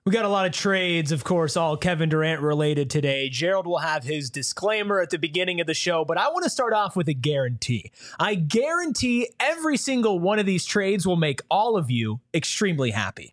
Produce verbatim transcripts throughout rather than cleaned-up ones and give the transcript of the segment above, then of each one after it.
We got a lot of trades, of course, all Kevin Durant related today. Gerald will have his disclaimer at the beginning of the show, but I want to start off with a guarantee. I guarantee every single one of these trades will make all of you extremely happy.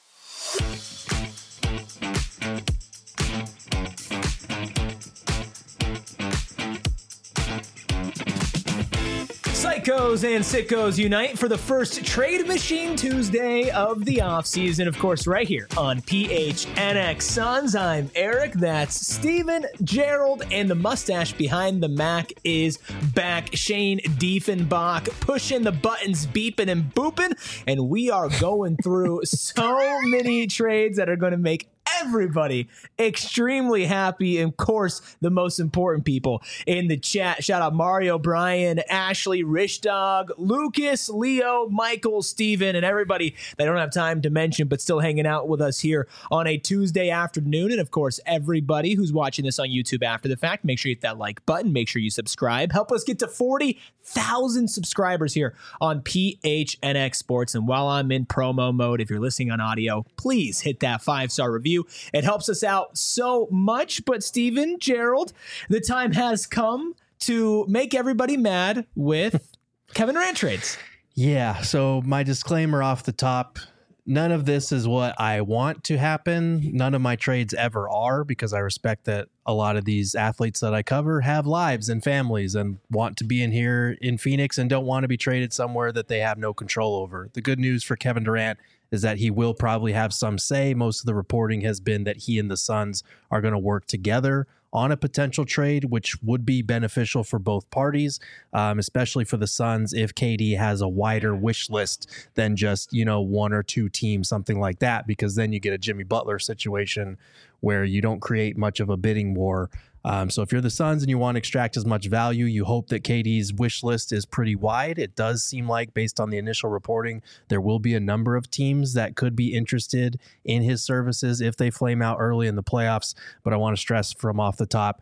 Psychos and sickos unite for the first Trade Machine Tuesday of the offseason. Of course, right here on P H N X Suns. I'm Eric. That's Steven, Gerald, and the mustache behind the Mac is back. Shane Diefenbach pushing the buttons, beeping and booping. And we are going through so many trades that are going to make everybody extremely happy. And of course, the most important people in the chat. Shout out Mario, Brian, Ashley, Rich Dog, Lucas, Leo, Michael, Steven, and everybody that I don't have time to mention, but still hanging out with us here on a Tuesday afternoon. And of course, everybody who's watching this on YouTube after the fact, make sure you hit that like button. Make sure you subscribe. Help us get to forty thousand subscribers here on P H N X Sports. And while I'm in promo mode, if you're listening on audio, please hit that five-star review. It helps us out so much. But Steven, Gerald, the time has come to make everybody mad with Kevin Durant trades. Yeah, so my disclaimer off the top, none of this is what I want to happen. None of my trades ever are, because I respect that a lot of these athletes that I cover have lives and families and want to be in here in Phoenix and don't want to be traded somewhere that they have no control over. The good news for Kevin Durant is that he will probably have some say. Most of the reporting has been that he and the Suns are going to work together on a potential trade, which would be beneficial for both parties, um, especially for the Suns if K D has a wider wish list than just, you know, one or two teams, something like that, because then you get a Jimmy Butler situation where you don't create much of a bidding war. Um, so if you're the Suns and you want to extract as much value, you hope that K D's wish list is pretty wide. It does seem like, based on the initial reporting, there will be a number of teams that could be interested in his services if they flame out early in the playoffs. But I want to stress from off the top,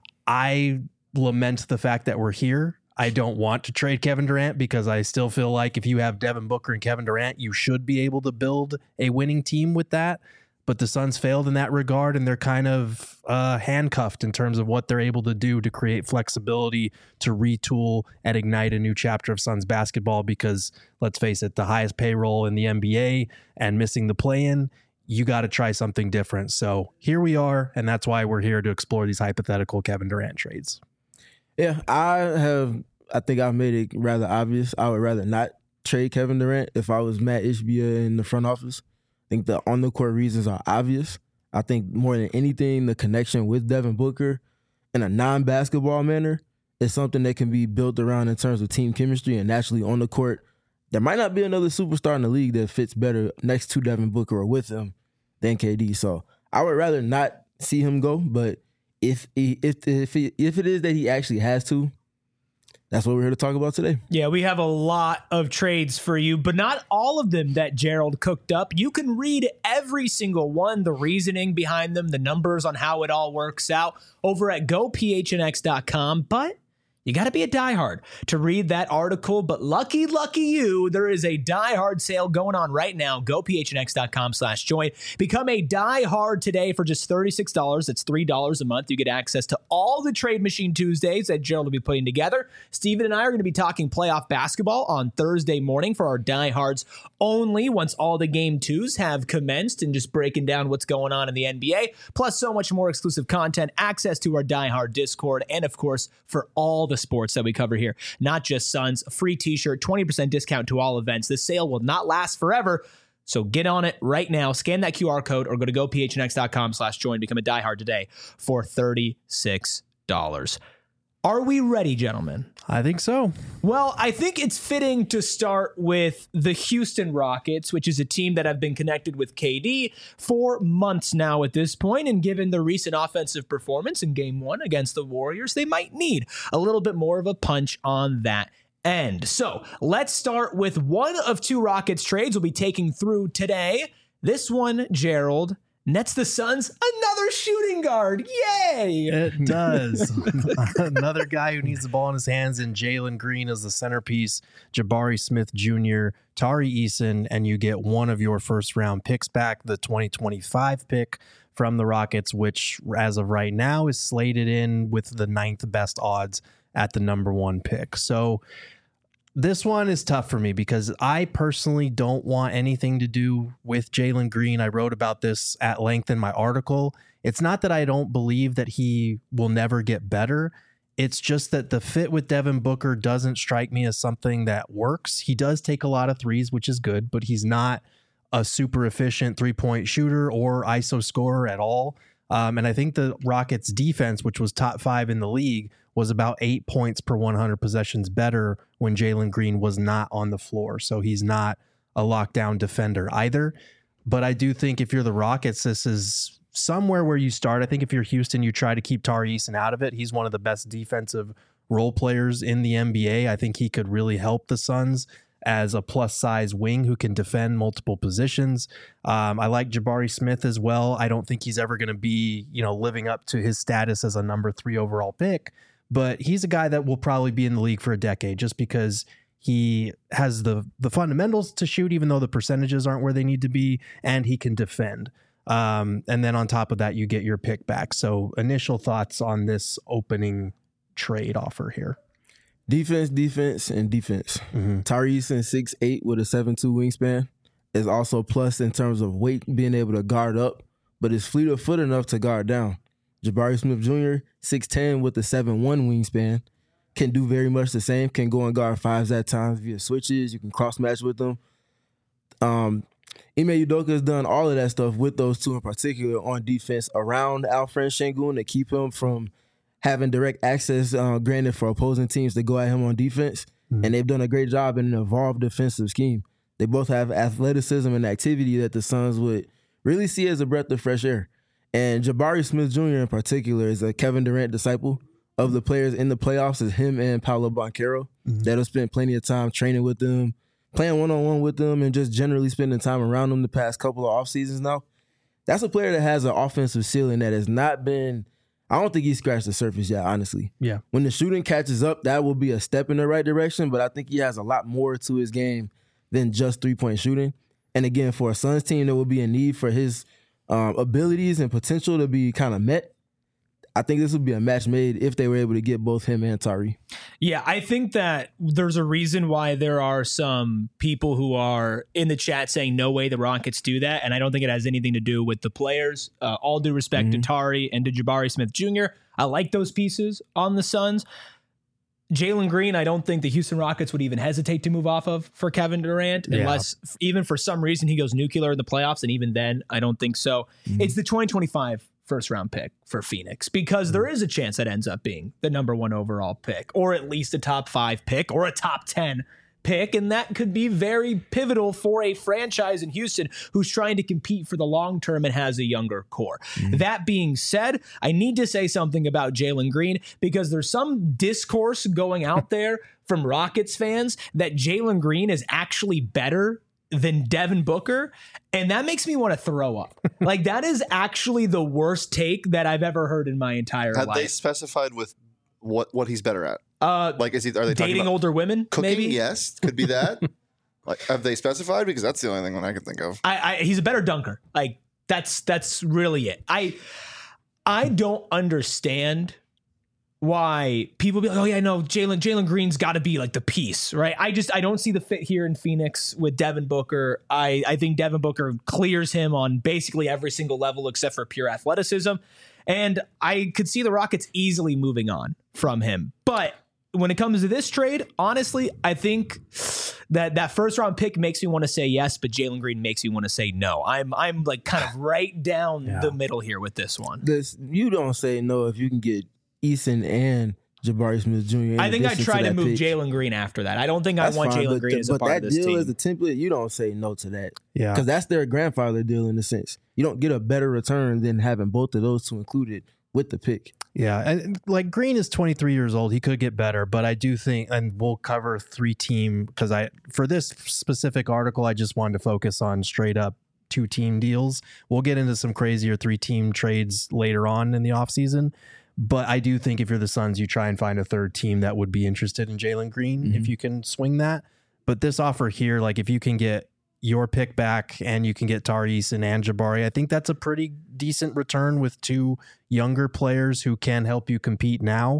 I lament the fact that we're here. I don't want to trade Kevin Durant because I still feel like if you have Devin Booker and Kevin Durant, you should be able to build a winning team with that. But the Suns failed in that regard, and they're kind of uh, handcuffed in terms of what they're able to do to create flexibility to retool and ignite a new chapter of Suns basketball. Because let's face it, the highest payroll in the N B A and missing the play-in, you got to try something different. So here we are, and that's why we're here to explore these hypothetical Kevin Durant trades. Yeah, I have. I think I've made it rather obvious. I would rather not trade Kevin Durant if I was Matt Ishbia in the front office. I think the on-the-court reasons are obvious. I think more than anything, the connection with Devin Booker in a non-basketball manner is something that can be built around in terms of team chemistry and naturally on the court. There might not be another superstar in the league that fits better next to Devin Booker or with him than K D. So I would rather not see him go, but if he, if if he, if it is that he actually has to, that's what we're here to talk about today. Yeah, we have a lot of trades for you, but not all of them that Gerald cooked up. You can read every single one, the reasoning behind them, the numbers on how it all works out over at go P H N X dot com. But you got to be a diehard to read that article. But lucky, lucky you, there is a diehard sale going on right now. go P H N X dot com slash join. Become a diehard today for just thirty-six dollars. That's three dollars a month. You get access to all the Trade Machine Tuesdays that Gerald will be putting together. Steven and I are going to be talking playoff basketball on Thursday morning for our diehards only, once all the game twos have commenced, and just breaking down what's going on in the N B A. Plus so much more exclusive content, access to our diehard Discord, and of course, for all the sports that we cover here, not just Suns, free t-shirt, twenty percent discount to all events. This sale will not last forever, so get on it right now. Scan that Q R code or go to go P H N X dot com slash join. Become a diehard today for thirty-six dollars. Are we ready, gentlemen? I think so. Well, I think it's fitting to start with the Houston Rockets, which is a team that have been connected with K D for months now at this point. And given the recent offensive performance in game one against the Warriors, they might need a little bit more of a punch on that end. So let's start with one of two Rockets trades we'll be taking through today. This one, Gerald, Nets the Suns, another shooting guard. Yay! It does. Another guy who needs the ball in his hands, and Jalen Green is the centerpiece. Jabari Smith Junior, Tari Eason, and you get one of your first round picks back, the twenty twenty-five pick from the Rockets, which as of right now is slated in with the ninth best odds at the number one pick. So this one is tough for me because I personally don't want anything to do with Jalen Green. I wrote about this at length in my article. It's not that I don't believe that he will never get better. It's just that the fit with Devin Booker doesn't strike me as something that works. He does take a lot of threes, which is good, but he's not a super efficient three-point shooter or I S O scorer at all. Um, and I think the Rockets defense, which was top five in the league, was about eight points per one hundred possessions better when Jalen Green was not on the floor. So he's not a lockdown defender either. But I do think if you're the Rockets, this is somewhere where you start. I think if you're Houston, you try to keep Tari Eason out of it. He's one of the best defensive role players in the N B A. I think he could really help the Suns as a plus size wing who can defend multiple positions. Um, I like Jabari Smith as well. I don't think he's ever going to be, you know, living up to his status as a number three overall pick, but he's a guy that will probably be in the league for a decade just because he has the the fundamentals to shoot, even though the percentages aren't where they need to be, and he can defend. Um, and then on top of that, you get your pick back. So initial thoughts on this opening trade offer here. Defense, defense, and defense. Mm-hmm. Tari Eason, six eight with a seven two wingspan, is also plus in terms of weight, being able to guard up, but is fleet of foot enough to guard down. Jabari Smith Junior, six ten with a seven one wingspan, can do very much the same, can go and guard fives at times via switches. You can cross-match with them. Um, Ime Udoka has done all of that stuff with those two in particular on defense around Alfred Sengun to keep him from having direct access, uh, granted, for opposing teams to go at him on defense. Mm-hmm. And they've done a great job in an evolved defensive scheme. They both have athleticism and activity that the Suns would really see as a breath of fresh air. And Jabari Smith Junior in particular is a Kevin Durant disciple. Of the players in the playoffs is him and Paolo Banchero. Mm-hmm. That'll spend plenty of time training with them, playing one-on-one with them, and just generally spending time around them the past couple of off seasons now. That's a player that has an offensive ceiling that has not been, I don't think he scratched the surface yet, honestly. Yeah. When the shooting catches up, that will be a step in the right direction, but I think he has a lot more to his game than just three-point shooting. And again, for a Suns team that will be in need for his um, abilities and potential to be kind of met, I think this would be a match made if they were able to get both him and Tari. Yeah, I think that there's a reason why there are some people who are in the chat saying no way the Rockets do that, and I don't think it has anything to do with the players. Uh, all due respect mm-hmm. to Tari and to Jabari Smith Junior I like those pieces on the Suns. Jalen Green, I don't think the Houston Rockets would even hesitate to move off of for Kevin Durant, yeah. unless even for some reason he goes nuclear in the playoffs, and even then, I don't think so. Mm-hmm. It's the twenty twenty-five first round pick for Phoenix because there is a chance that ends up being the number one overall pick, or at least a top five pick or a top ten pick. And that could be very pivotal for a franchise in Houston who's trying to compete for the long term and has a younger core. Mm-hmm. That being said, I need to say something about Jalen Green because there's some discourse going out there from Rockets fans that Jalen Green is actually better than Devin Booker, and that makes me want to throw up. Like, that is actually the worst take that I've ever heard in my entire Have life. Have they specified with what what he's better at? Uh, like, is he are they dating talking about older women? Cooking? Maybe? Yes, could be that. Like, have they specified? Because that's the only thing one I can think of. I, I he's a better dunker. Like, that's that's really it. I I don't understand why people be like, oh yeah, no, Jalen Jalen Green's got to be like the piece, right? I just I don't see the fit here in Phoenix with Devin Booker. I I think Devin Booker clears him on basically every single level except for pure athleticism, and I could see the Rockets easily moving on from him. But when it comes to this trade, honestly, I think that that first round pick makes me want to say yes, but Jalen Green makes me want to say no. I'm I'm like kind of right down yeah. the middle here with this one. This you don't say no if you can get Eason and Jabari Smith Junior I think I tried to, to move Jalen Green after that. I don't think that's I want Jalen Green the, as a part of this team. But that deal is a template. You don't say no to that. Yeah. Because that's their grandfather deal in a sense. You don't get a better return than having both of those two included with the pick. Yeah. And like Green is twenty-three years old. He could get better, but I do think, and we'll cover three team because I, for this specific article, I just wanted to focus on straight up two team deals. We'll get into some crazier three team trades later on in the offseason. But I do think if you're the Suns, you try and find a third team that would be interested in Jalen Green mm-hmm. if you can swing that. But this offer here, like if you can get your pick back and you can get Tari Eason and Jabari, I think that's a pretty decent return with two younger players who can help you compete now.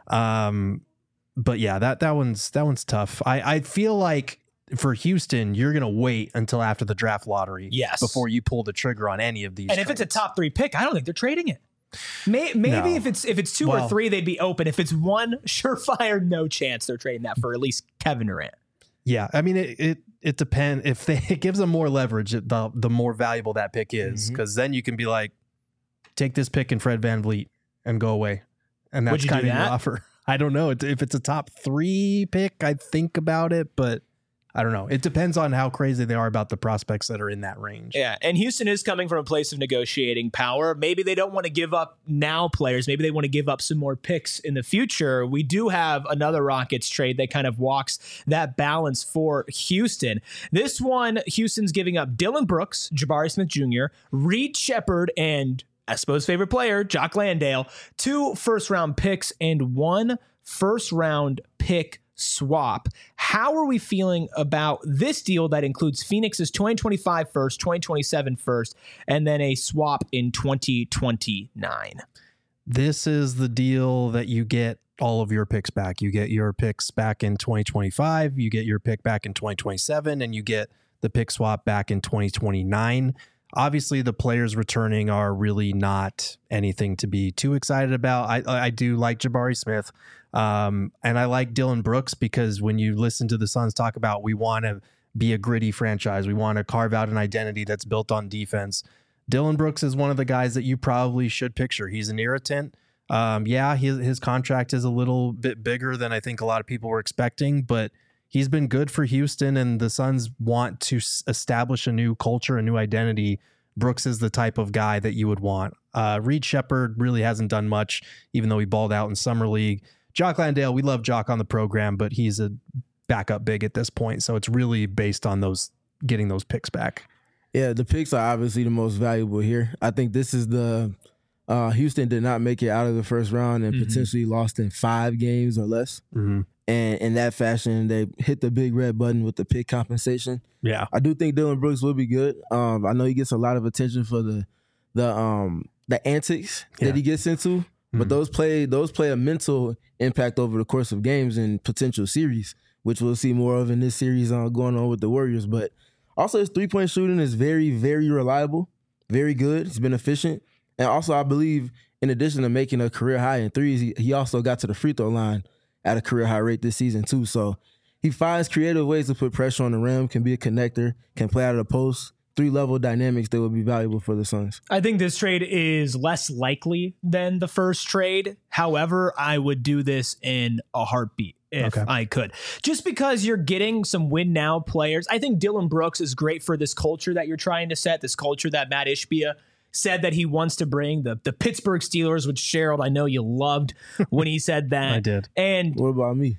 Um, but yeah, that that one's that one's tough. I, I feel like for Houston, you're going to wait until after the draft lottery yes. before you pull the trigger on any of these. And trades. if it's a top three pick, I don't think they're trading it. May, maybe no. if it's if it's two well, or three, they'd be open. If it's one, surefire, no chance they're trading that for at least Kevin Durant. Yeah, I mean it. It, it depends if they it gives them more leverage. The the more valuable that pick is, because mm-hmm. then you can be like, take this pick and Fred VanVleet and go away, and that's kind of your offer. I don't know if it's a top three pick. I'd think about it, but I don't know. It depends on how crazy they are about the prospects that are in that range. Yeah, and Houston is coming from a place of negotiating power. Maybe they don't want to give up now players. Maybe they want to give up some more picks in the future. We do have another Rockets trade that kind of walks that balance for Houston. This one, Houston's giving up Dylan Brooks, Jabari Smith Junior, Reed Shepherd, and Espo's favorite player, Jock Landale, two first-round picks, and one first-round pick swap. How are we feeling about this deal that includes Phoenix's twenty twenty-five first, twenty twenty-seven first, and then a swap in twenty twenty-nine? This is the deal that you get all of your picks back. You get your picks back in twenty twenty-five, you get your pick back in twenty twenty-seven, and you get the pick swap back in twenty twenty-nine. Obviously, the players returning are really not anything to be too excited about. I, I do like Jabari Smith, um, and I like Dylan Brooks because when you listen to the Suns talk about we want to be a gritty franchise, we want to carve out an identity that's built on defense, Dylan Brooks is one of the guys that you probably should picture. He's an irritant. Um, yeah, his, his contract is a little bit bigger than I think a lot of people were expecting, but he's been good for Houston, and the Suns want to s- establish a new culture, a new identity. Brooks is the type of guy that you would want. Uh, Reed Shepherd really hasn't done much, even though he balled out in Summer League. Jock Landale, we love Jock on the program, but he's a backup big at this point, so it's really based on those getting those picks back. Yeah, the picks are obviously the most valuable here. I think this is the uh, Houston did not make it out of the first round and mm-hmm. potentially lost in five games or less. Mm-hmm. And in that fashion, they hit the big red button with the pick compensation. Yeah, I do think Dylan Brooks will be good. Um, I know he gets a lot of attention for the the um, the antics yeah. that he gets into, mm-hmm. but those play those play a mental impact over the course of games and potential series, which we'll see more of in this series uh, going on with the Warriors. But also, his three point shooting is very, very reliable, very good. He's been efficient, and also I believe in addition to making a career high in threes, he, he also got to the free throw line at a career high rate this season too. So he finds creative ways to put pressure on the rim, can be a connector, can play out of the post. Three-level dynamics that would be valuable for the Suns. I think this trade is less likely than the first trade. However, I would do this in a heartbeat if okay. I could. Just because you're getting some win-now players. I think Dylan Brooks is great for this culture that you're trying to set, this culture that Matt Ishbia said that he wants to bring, the the Pittsburgh Steelers, which Gerald, I know you loved when he said that. I did. And what about me?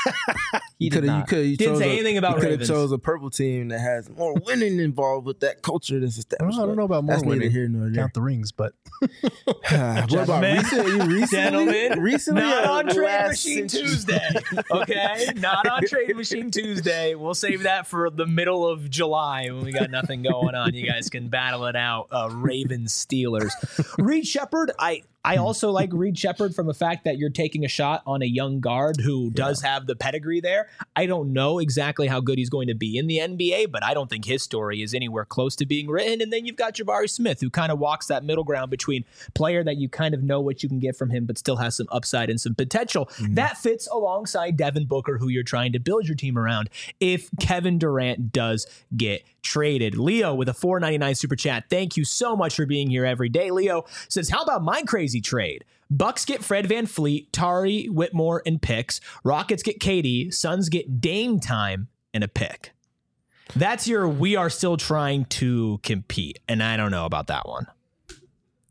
he did not. You you didn't say a, anything about you Ravens. You could have chose a purple team that has more winning involved with that culture that's established. I don't know about more that's winning. Here, no, Count the rings, but what about recently? Recently, Gentlemen, recently not on Trade Machine century. Tuesday. Okay, not on Trade Machine Tuesday. We'll save that for the middle of July when we got nothing going on. You guys can battle it out. Uh, Ravens Steelers. Reed Shepherd, I. I also like Reed Shepherd from the fact that you're taking a shot on a young guard who does yeah. have the pedigree there. I don't know exactly how good he's going to be in the N B A, but I don't think his story is anywhere close to being written. And then you've got Jabari Smith, who kind of walks that middle ground between player that you kind of know what you can get from him, but still has some upside and some potential. Mm-hmm. That fits alongside Devin Booker, who you're trying to build your team around if Kevin Durant does get traded. Leo with a four ninety-nine super chat. Thank you so much for being here every day. Leo says, how about my crazy trade? Bucks get Fred VanVleet, Tari Whitmore, and picks. Rockets get K D. Suns get Dame time and a pick. That's your we are still trying to compete. And I don't know about that one.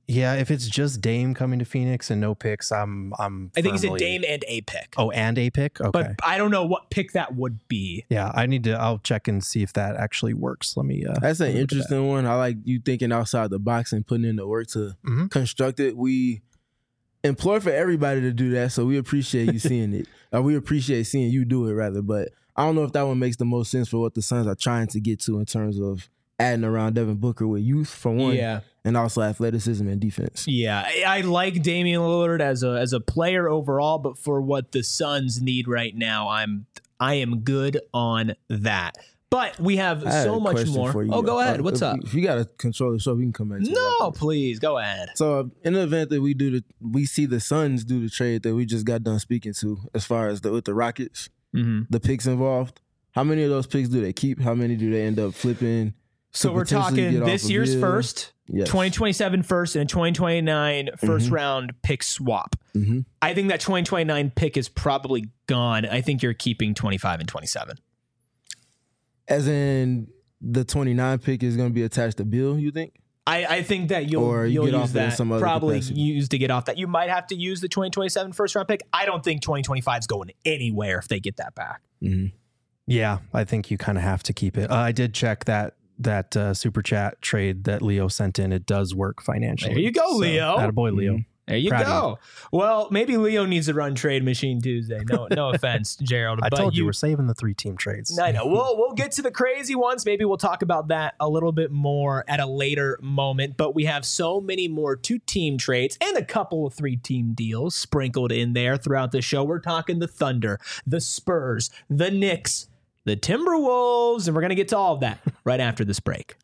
Yeah, if it's just Dame coming to Phoenix and no picks, I'm I'm. I think he said firmly- Dame and a pick. Oh, and a pick. Okay. But I don't know what pick that would be. Yeah, I need to. I'll check and see if that actually works. Let me. Uh, That's let an me look at interesting one. I like you thinking outside the box and putting in the work to Mhm. construct it. We implore for everybody to do that, so we appreciate you seeing it. Or we appreciate seeing you do it, rather. But I don't know if that one makes the most sense for what the Suns are trying to get to in terms of adding around Devin Booker with youth, for one, Yeah. and also athleticism and defense. Yeah, I, I like Damian Lillard as a as a player overall, but for what the Suns need right now, I'm I am good on that. But we have I had so a much question more. for you. Oh, go ahead. Uh, What's if, up? If you got to control the show, we can come back to that. No, please go ahead. So uh, in the event that we do the, we see the Suns do the trade that we just got done speaking to, as far as the with the Rockets, Mm-hmm. the picks involved. How many of those picks do they keep? How many do they end up flipping? So to we're potentially talking get off this of year's Bill? first, Yes. twenty twenty-seven first, and a twenty twenty-nine first Mhm. round pick swap. Mm-hmm. I think that twenty twenty-nine pick is probably gone. I think you're keeping twenty-five and twenty-seven. As in the twenty-nine pick is going to be attached to Bill, you think? I, I think that you'll Or you you'll get off use it in that some other probably capacity. use to get off that. You might have to use the twenty twenty-seven first round pick. I don't think twenty twenty-five is going anywhere if they get that back. Mm-hmm. Yeah, I think you kind of have to keep it. Uh, I did check that that uh, super chat trade that Leo sent in. It does work financially. There you go, Leo. Attaboy, Leo. Mhm. There you Proud go. Well, maybe Leo needs to run Trade Machine Tuesday. No, no offense, Gerald. I but told you, we're saving the three team trades. I know. We'll we'll get to the crazy ones. Maybe we'll talk about that a little bit more at a later moment. But we have so many more two team trades and a couple of three team deals sprinkled in there throughout the show. We're talking the Thunder, the Spurs, the Knicks, the Timberwolves, and we're gonna get to all of that right after this break.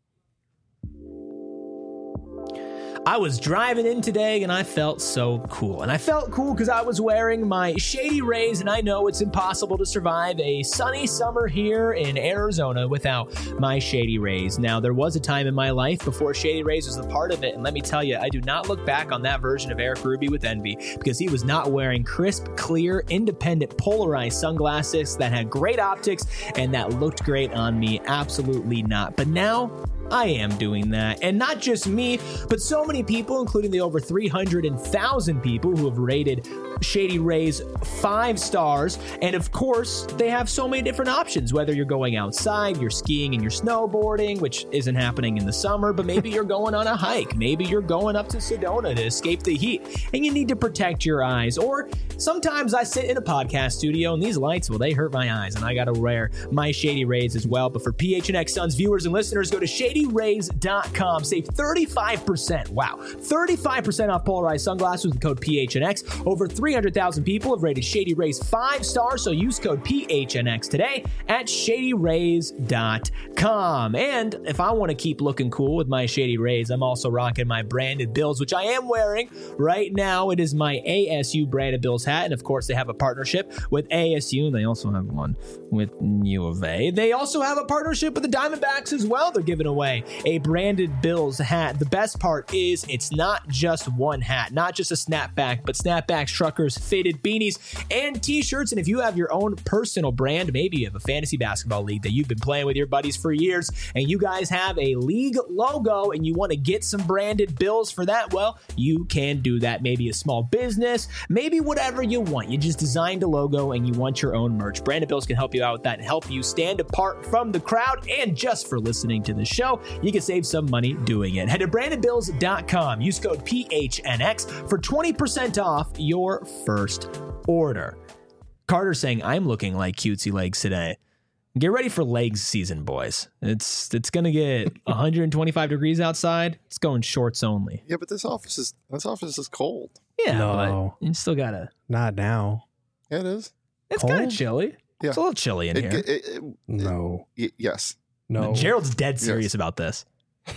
I was driving in today and I felt so cool. And I felt cool because I was wearing my Shady Rays, and I know it's impossible to survive a sunny summer here in Arizona without my Shady Rays. Now, there was a time in my life before Shady Rays was a part of it, and let me tell you, I do not look back on that version of Eric Ruby with envy, because he was not wearing crisp, clear, independent, polarized sunglasses that had great optics and that looked great on me. Absolutely not. But now, I am doing that. And not just me, but so many people, including the over three hundred thousand people who have rated Shady Rays five stars. And of course, they have so many different options, whether you're going outside, you're skiing and you're snowboarding, which isn't happening in the summer, but maybe you're going on a hike. Maybe you're going up to Sedona to escape the heat and you need to protect your eyes. Or sometimes I sit in a podcast studio and these lights, well, they hurt my eyes and I got to wear my Shady Rays as well. But for P H N X Suns viewers and listeners, go to shady rays dot com. Save thirty-five percent. Wow. thirty-five percent off polarized sunglasses with the code P H N X. Over three hundred thousand people have rated Shady Rays five stars, so use code P H N X today at shady rays dot com. And if I want to keep looking cool with my Shady Rays, I'm also rocking my branded Bills, which I am wearing right now. It is my A S U branded Bills hat, and of course they have a partnership with A S U, and they also have one with U of A. They also have a partnership with the Diamondbacks as well. They're giving away a branded Bills hat. The best part is it's not just one hat, not just a snapback, but snapbacks, truckers, faded beanies, and t-shirts. And if you have your own personal brand, maybe you have a fantasy basketball league that you've been playing with your buddies for years, and you guys have a league logo and you want to get some branded Bills for that, well, you can do that. Maybe a small business, maybe whatever you want. You just designed a logo and you want your own merch. Branded Bills can help you out with that and help you stand apart from the crowd. And just for listening to the show, you can save some money doing it. Head to branded bills dot com. Use code P H N X for twenty percent off your first order. Carter saying, I'm looking like cutesy legs today. Get ready for legs season, boys. It's it's going to get one hundred twenty-five degrees outside. It's going shorts only. Yeah, but this office is this office is cold. Yeah, No. but you still got to. Not now. Yeah, it is. It's kind of Cold? chilly. Yeah. It's a little chilly in It, here. it, it, No. y- yes. No. Gerald's dead serious Yes. about this.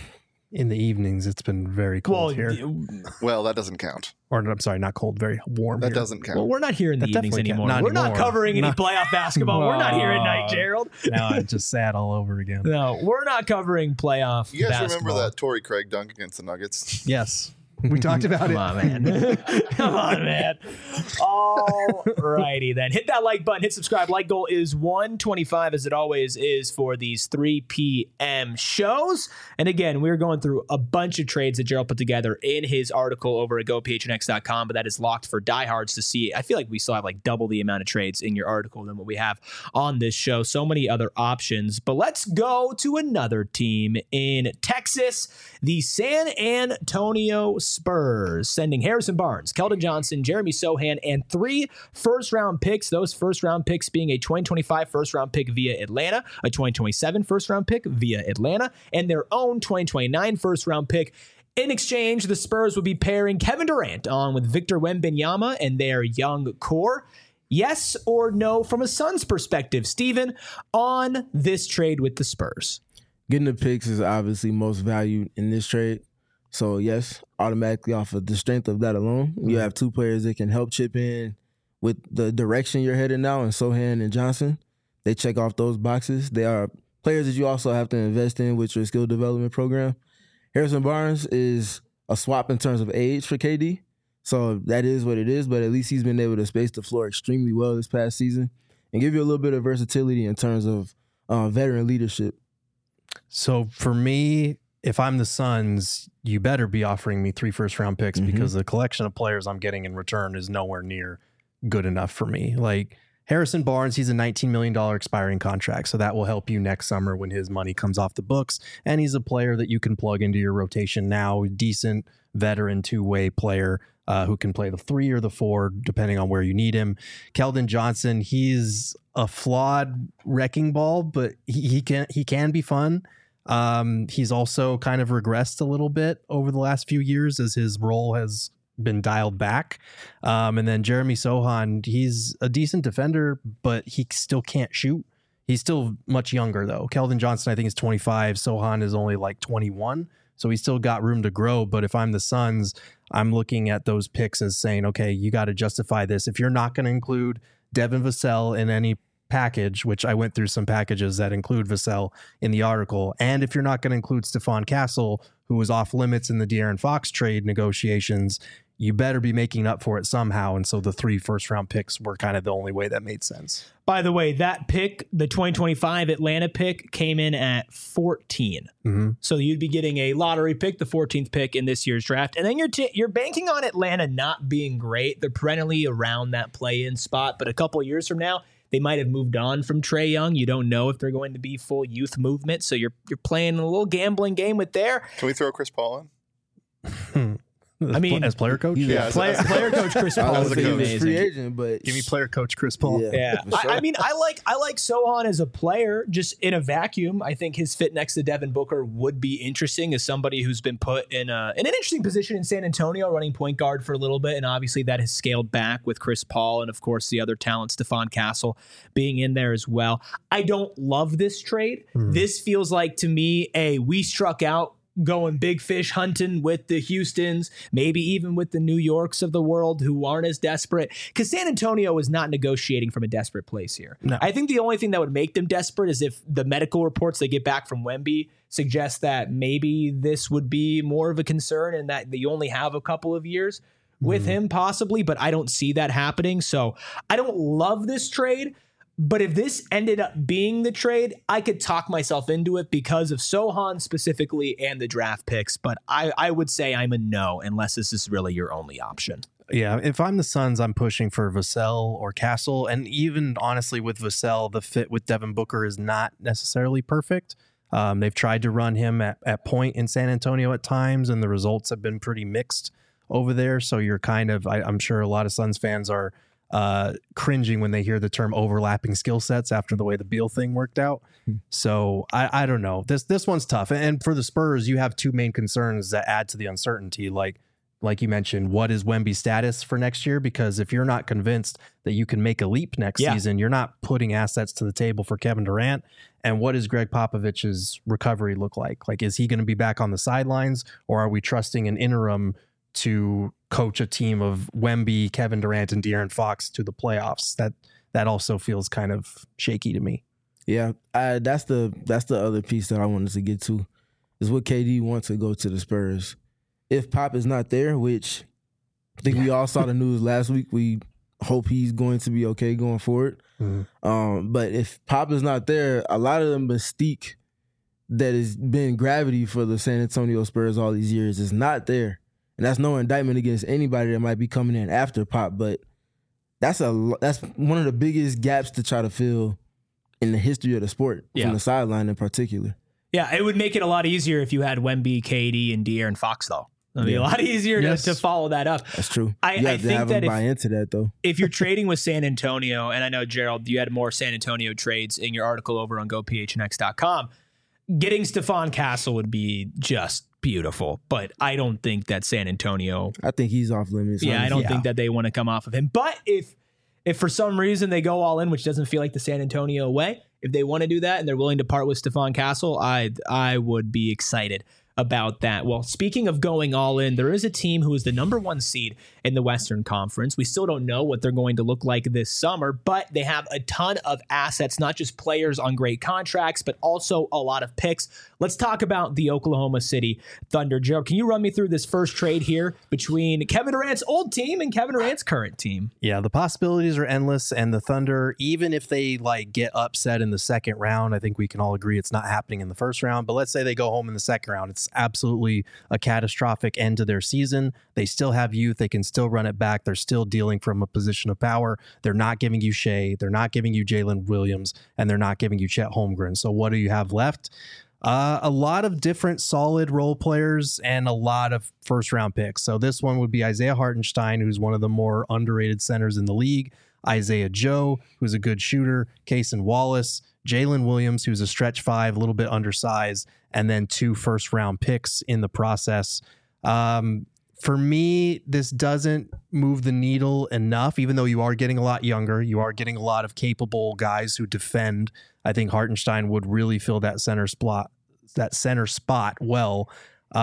In the evenings, it's been very cold Well, here. y- Well, that doesn't count. Or I'm sorry, not cold, very warm That here. doesn't count. well, we're not here in the That evenings definitely anymore. can't- not We're not anymore. covering any Not- playoff basketball. We're not here at night, No. Gerald. Now I'm just sad all over again. No, we're not covering playoff you guys basketball. remember that Torrey Craig dunk against the Nuggets? Yes. We talked about Come it. on, man. Come on, man. All righty then. Hit that like button. Hit subscribe. Like goal is one twenty-five, as it always is for these three p.m. shows. And again, we're going through a bunch of trades that Gerald put together in his article over at go p h n x dot com, but that is locked for diehards to see. I feel like we still have like double the amount of trades in your article than what we have on this show. So many other options. But let's go to another team in Texas, the San Antonio Spurs, sending Harrison Barnes, Keldon Johnson, Jeremy Sohan, and three first-round picks. Those first-round picks being a twenty twenty-five first-round pick via Atlanta, a twenty twenty-seven first-round pick via Atlanta, and their own twenty twenty-nine first-round pick. In exchange, the Spurs would be pairing Kevin Durant on with Victor Wembanyama and their young core. Yes or no from a Suns perspective, Steven, on this trade with the Spurs? Getting the picks is obviously most valued in this trade. So, yes, automatically off of the strength of that alone, you have two players that can help chip in with the direction you're headed now, and Sohan and Johnson. They check off those boxes. They are players that you also have to invest in with your skill development program. Harrison Barnes is a swap in terms of age for K D. So that is what it is, but at least he's been able to space the floor extremely well this past season and give you a little bit of versatility in terms of uh, veteran leadership. So for me, if I'm the Suns, you better be offering me three first round picks mm-hmm. because the collection of players I'm getting in return is nowhere near good enough for me. Like Harrison Barnes, he's a nineteen million dollars expiring contract, so that will help you next summer when his money comes off the books. And he's a player that you can plug into your rotation now, decent veteran two-way player uh, who can play the three or the four, depending on where you need him. Keldon Johnson, he's a flawed wrecking ball, but he, he can he can be fun. Um, he's also kind of regressed a little bit over the last few years as his role has been dialed back. Um, and then Jeremy Sohan, he's a decent defender, but he still can't shoot. He's still much younger though. Keldon Johnson, I think, is twenty-five. Sohan is only like twenty-one. So he's still got room to grow. But if I'm the Suns, I'm looking at those picks as saying, okay, you got to justify this. If you're not going to include Devin Vassell in any package, which I went through some packages that include Vassell in the article, and if you're not going to include Stephon Castle, who was off limits in the De'Aaron Fox trade negotiations, you better be making up for it somehow. And so the three first round picks were kind of the only way that made sense. By the way, that pick, the twenty twenty-five Atlanta pick, came in at fourteen. Mm-hmm. So you'd be getting a lottery pick, the fourteenth pick in this year's draft. And then you're t- you're banking on Atlanta not being great. They're perennially around that play-in spot. But a couple years from now, they might have moved on from Trae Young. You don't know if they're going to be full youth movement. So you're you're playing a little gambling game with there. Can we throw Chris Paul in? I mean, as player coach, yeah, yeah player, as, player coach Chris Paul is amazing. Free agent, but give me player coach Chris Paul. Yeah, yeah. sure. I, I mean, I like I like Sohan as a player, just in a vacuum. I think his fit next to Devin Booker would be interesting as somebody who's been put in a in an interesting position in San Antonio, running point guard for a little bit, and obviously that has scaled back with Chris Paul and of course the other talent, Stephon Castle, being in there as well. I don't love this trade. Mm. This feels like to me a we struck out. Going big fish hunting with the Houstons, maybe even with the New Yorks of the world who aren't as desperate, because San Antonio is not negotiating from a desperate place here. No. I think the only thing that would make them desperate is if the medical reports they get back from Wemby suggest that maybe this would be more of a concern and that you only have a couple of years with mm. him possibly, but I don't see that happening. So I don't love this trade. But if this ended up being the trade, I could talk myself into it because of Sohan specifically and the draft picks. But I, I would say I'm a no unless this is really your only option. Yeah, if I'm the Suns, I'm pushing for Vassell or Castle. And even honestly with Vassell, the fit with Devin Booker is not necessarily perfect. Um, they've tried to run him at, at point in San Antonio at times, and the results have been pretty mixed over there. So you're kind of, I, I'm sure a lot of Suns fans are uh, cringing when they hear the term overlapping skill sets after the way the Beal thing worked out. Hmm. So I, I don't know. This this one's tough. And for the Spurs, you have two main concerns that add to the uncertainty. Like like you mentioned, what is Wemby's status for next year? Because if you're not convinced that you can make a leap next yeah. season, you're not putting assets to the table for Kevin Durant. And what does Greg Popovich's recovery look like? Like, is he going to be back on the sidelines, or are we trusting an interim to coach a team of Wemby, Kevin Durant, and De'Aaron Fox to the playoffs? That that also feels kind of shaky to me. Yeah, I, that's the that's the other piece that I wanted to get to, is what K D wants to go to the Spurs. if Pop is not there, which I think we all saw the news last week, we hope he's going to be okay going forward. Mm-hmm. Um, but if Pop is not there, a lot of the mystique that has been gravity for the San Antonio Spurs all these years is not there. And that's no indictment against anybody that might be coming in after Pop, but that's a that's one of the biggest gaps to try to fill in the history of the sport, yeah. from the sideline in particular. Yeah, it would make it a lot easier if you had Wemby, K D, and De'Aaron Fox, though. It would be yeah. a lot easier yes. to, to follow that up. That's true. I, you have I to think have that them buy if, into that, though. If you're trading with San Antonio, and I know, Gerald, you had more San Antonio trades in your article over on go p h n x dot com, getting Stephon Castle would be just beautiful, but I don't think that San Antonio... I think he's off limits. Yeah, honestly. I don't yeah. think that they want to come off of him. But if if for some reason they go all in, which doesn't feel like the San Antonio way, if they want to do that and they're willing to part with Stephon Castle, I I would be excited about that. Well, speaking of going all in, there is a team who is the number one seed in the Western Conference. We still don't know what they're going to look like this summer, but they have a ton of assets, not just players on great contracts, but also a lot of picks. Let's talk about the Oklahoma City Thunder. Joe, can you run me through this first trade here between Kevin Durant's old team and Kevin Durant's current team? Yeah, the possibilities are endless, and the Thunder, even if they like get upset in the second round, I think we can all agree it's not happening in the first round, but let's say they go home in the second round. It's absolutely a catastrophic end to their season. They still have youth. They can still run it back. They're still dealing from a position of power. They're not giving you Shea. They're not giving you Jalen Williams, and they're not giving you Chet Holmgren. So what do you have left? Uh, a lot of different solid role players and a lot of first round picks. So this one would be Isaiah Hartenstein, who's one of the more underrated centers in the league. Isaiah Joe, who's a good shooter. Cason Wallace, Jalen Williams, who's a stretch five, a little bit undersized, and then two first round picks in the process. Um, for me, this doesn't move the needle enough, even though you are getting a lot younger. You are getting a lot of capable guys who defend. I think Hartenstein would really fill that center spot, that center spot well.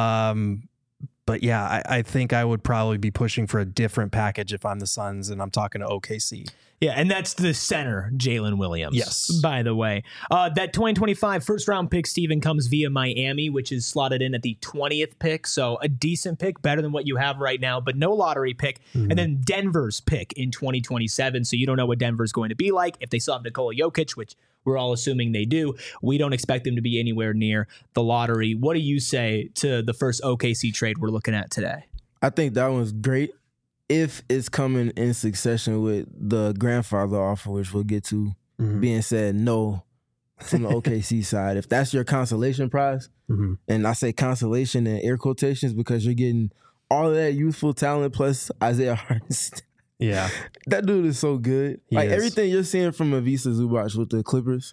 Um, but yeah, I, I think I would probably be pushing for a different package if I'm the Suns and I'm talking to O K C. Yeah, and that's the center, Jalen Williams. Yes. By the way, uh, that twenty twenty-five first round pick, Steven, comes via Miami, which is slotted in at the twentieth pick. So a decent pick, better than what you have right now, but no lottery pick. Mm-hmm. And then Denver's pick in twenty twenty-seven. So you don't know what Denver's going to be like. If they still have Nikola Jokic, which we're all assuming they do, we don't expect them to be anywhere near the lottery. What do you say to the first O K C trade we're looking at today? I think that one's great if it's coming in succession with the grandfather offer, which we'll get to, mm-hmm. being said no from the O K C side. If that's your consolation prize, mm-hmm. and I say consolation in air quotations because you're getting all of that youthful talent plus Isaiah Hartenstein. Yeah. That dude is so good. He like is. Everything you're seeing from Ivica Zubac with the Clippers,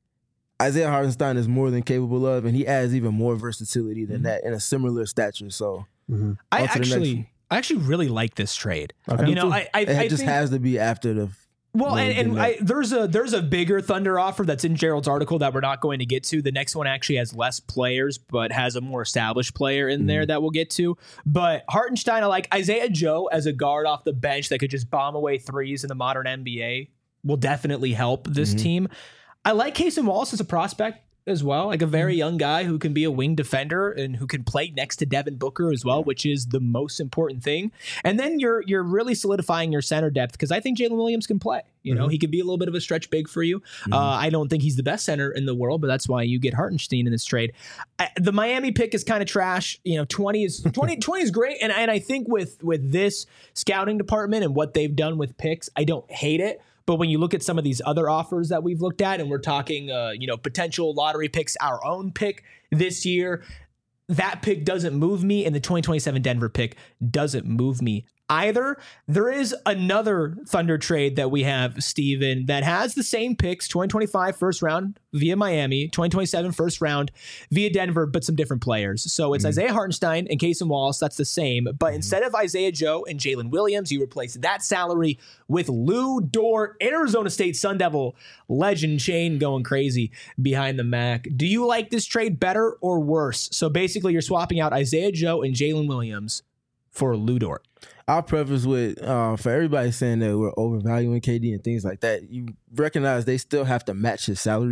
Isaiah Hartenstein is more than capable of, and he adds even more versatility than mm-hmm. that in a similar stature. So mm-hmm. I actually I actually really like this trade. Okay. You know, I, I, it I just think, has to be after the Well, and, and I, there's a there's a bigger Thunder offer that's in Gerald's article that we're not going to get to. The next one actually has less players, but has a more established player in mm-hmm. there that we'll get to. But Hartenstein, I like Isaiah Joe as a guard off the bench that could just bomb away threes in the modern N B A will definitely help this mm-hmm. team. I like Cason Wallace as a prospect as well, like a very young guy who can be a wing defender and who can play next to Devin Booker as well, which is the most important thing. And then you're you're really solidifying your center depth because I think Jalen Williams can play. You know, mm-hmm. he can be a little bit of a stretch big for you. Mm-hmm. Uh, I don't think he's the best center in the world, but that's why you get Hartenstein in this trade. I, the Miami pick is kind of trash. You know, twenty is twenty, twenty is great, and and I think with with this scouting department and what they've done with picks, I don't hate it. But when you look at some of these other offers that we've looked at, and we're talking, uh, you know, potential lottery picks, our own pick this year, that pick doesn't move me, and the twenty twenty-seven Denver pick doesn't move me either. There is another Thunder trade that we have, Steven, that has the same picks, twenty twenty-five first round via Miami, twenty twenty-seven first round via Denver, but some different players. So it's mm-hmm. Isaiah Hartenstein and Cason Wallace. That's the same. But mm-hmm. instead of Isaiah Joe and Jalen Williams, you replace that salary with Lou Dort, Arizona State Sun Devil legend Shane going crazy behind the Mac. Do you like this trade better or worse? So basically you're swapping out Isaiah Joe and Jalen Williams for Lou Dort. I'll preface with, uh, for everybody saying that we're overvaluing K D and things like that, you recognize they still have to match his salary.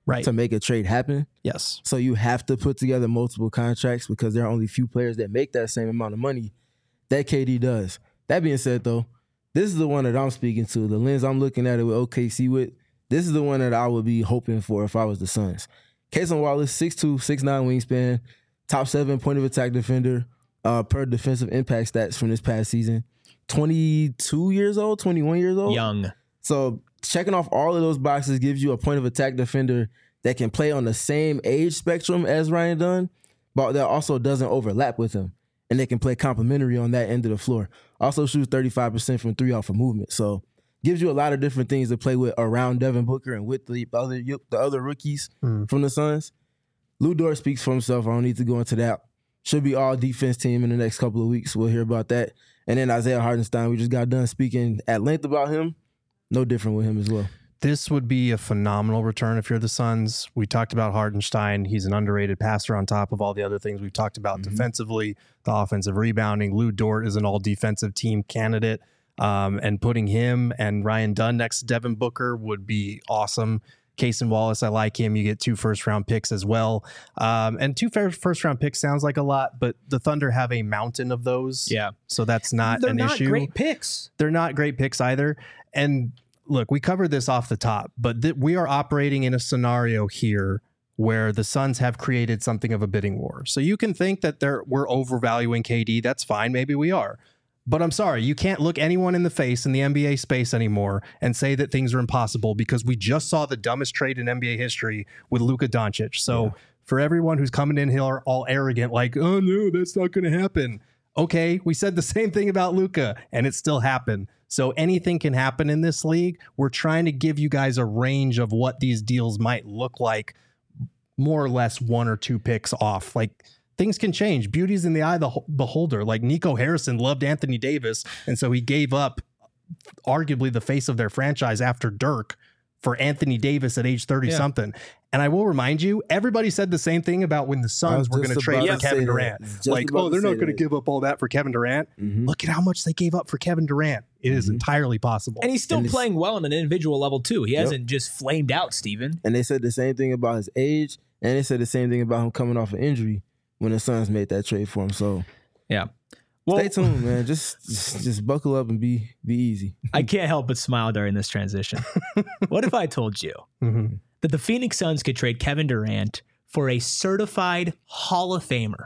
right. to make a trade happen. Yes. So you have to put together multiple contracts because there are only few players that make that same amount of money that K D does. That being said, though, this is the one that I'm speaking to. The lens I'm looking at it with O K C with, this is the one that I would be hoping for if I was the Suns. Cason Wallace, six two, six nine wingspan, top seven point of attack defender uh, per defensive impact stats from this past season. twenty-two years old, twenty-one years old. Young. So checking off all of those boxes gives you a point of attack defender that can play on the same age spectrum as Ryan Dunn, but that also doesn't overlap with him. And they can play complementary on that end of the floor. Also shoots thirty-five percent from three off of movement. So gives you a lot of different things to play with around Devin Booker and with the other the other rookies mm. from the Suns. Lou Dort speaks for himself. I don't need to go into that. Should be all defense team in the next couple of weeks. We'll hear about that. And then Isaiah Hartenstein, we just got done speaking at length about him. No different with him as well. This would be a phenomenal return if you're the Suns. We talked about Hartenstein. He's an underrated passer on top of all the other things we've talked about mm-hmm. defensively, the offensive rebounding. Lou Dort is an all-defensive team candidate. Um, and putting him and Ryan Dunn next to Devin Booker would be awesome. Cason Wallace, I like him. You get two first-round picks as well. Um, and two first-round picks sounds like a lot, but the Thunder have a mountain of those. Yeah. So that's not They're an not issue. They're not great picks. They're not great picks either. And look, we covered this off the top, but th- we are operating in a scenario here where the Suns have created something of a bidding war. So you can think that they're we're overvaluing K D. That's fine. Maybe we are. But I'm sorry, you can't look anyone in the face in the N B A space anymore and say that things are impossible because we just saw the dumbest trade in N B A history with Luka Doncic. So yeah. for everyone who's coming in here all arrogant, like, oh no, that's not going to happen. Okay, we said the same thing about Luka and it still happened. So anything can happen in this league. We're trying to give you guys a range of what these deals might look like, more or less one or two picks off. Like, things can change. Beauty's in the eye of the beholder. Like Nico Harrison loved Anthony Davis, and so he gave up arguably the face of their franchise after Dirk for Anthony Davis at age thirty yeah. something. And I will remind you, everybody said the same thing about when the Suns were going to trade for Kevin Durant. Like, oh, they're not going to give up all that for Kevin Durant. Mm-hmm. Look at how much they gave up for Kevin Durant. It mm-hmm. is entirely possible. And he's still and playing well on an individual level, too. He yep. hasn't just flamed out, Steven. And they said the same thing about his age, and they said the same thing about him coming off an injury when the Suns made that trade for him. So, yeah. Well, stay tuned, man. Just, just just buckle up and be be easy. I can't help but smile during this transition. What if I told you mm-hmm. that the Phoenix Suns could trade Kevin Durant for a certified Hall of Famer,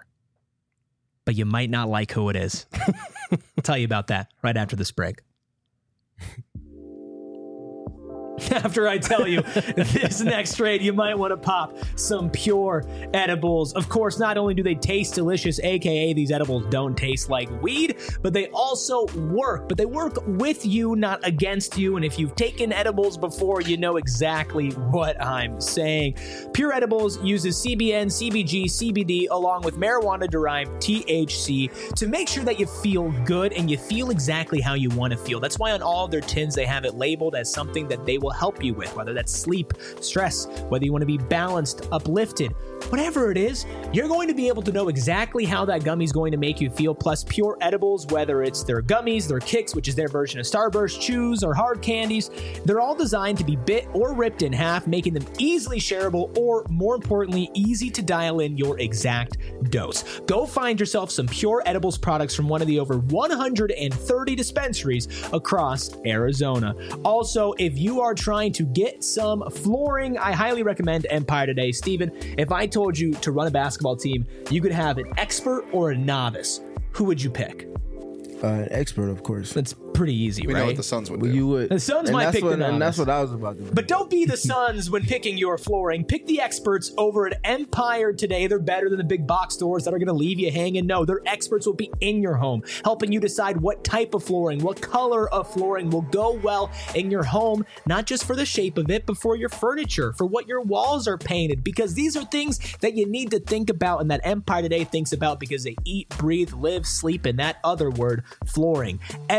but you might not like who it is? I'll tell you about that right after this break. After I tell you this next trade, you might want to pop some Pure edibles. Of course, not only do they taste delicious, aka these edibles don't taste like weed, but they also work. But they work with you, not against you. And if you've taken edibles before, you know exactly what I'm saying. Pure Edibles uses C B N, C B G, C B D, along with marijuana-derived T H C to make sure that you feel good and you feel exactly how you want to feel. That's why on all their tins, they have it labeled as something that they will help you with, whether that's sleep, stress, whether you want to be balanced, uplifted, whatever it is, you're going to be able to know exactly how that gummy is going to make you feel. Plus, Pure Edibles, whether it's their gummies, their kicks, which is their version of Starburst, chews, or hard candies, they're all designed to be bit or ripped in half, making them easily shareable or, more importantly, easy to dial in your exact dose. Go find yourself some Pure Edibles products from one of the over one hundred thirty dispensaries across Arizona. Also, if you are trying to get some flooring, I highly recommend Empire Today. Steven, if I told you to run a basketball team, you could have an expert or a novice, who would you pick? Uh, an expert, of course. That's pretty easy, we right? know what the Suns would do. Well, you would. The Suns and might pick what, the novice. And that's what I was about to do. But don't be the Suns when picking your flooring. Pick the experts over at Empire Today. They're better than the big box stores that are going to leave you hanging. No, their experts will be in your home, helping you decide what type of flooring, what color of flooring will go well in your home, not just for the shape of it, but for your furniture, for what your walls are painted, because these are things that you need to think about and that Empire Today thinks about because they eat, breathe, live, sleep, and that other word, flooring. Every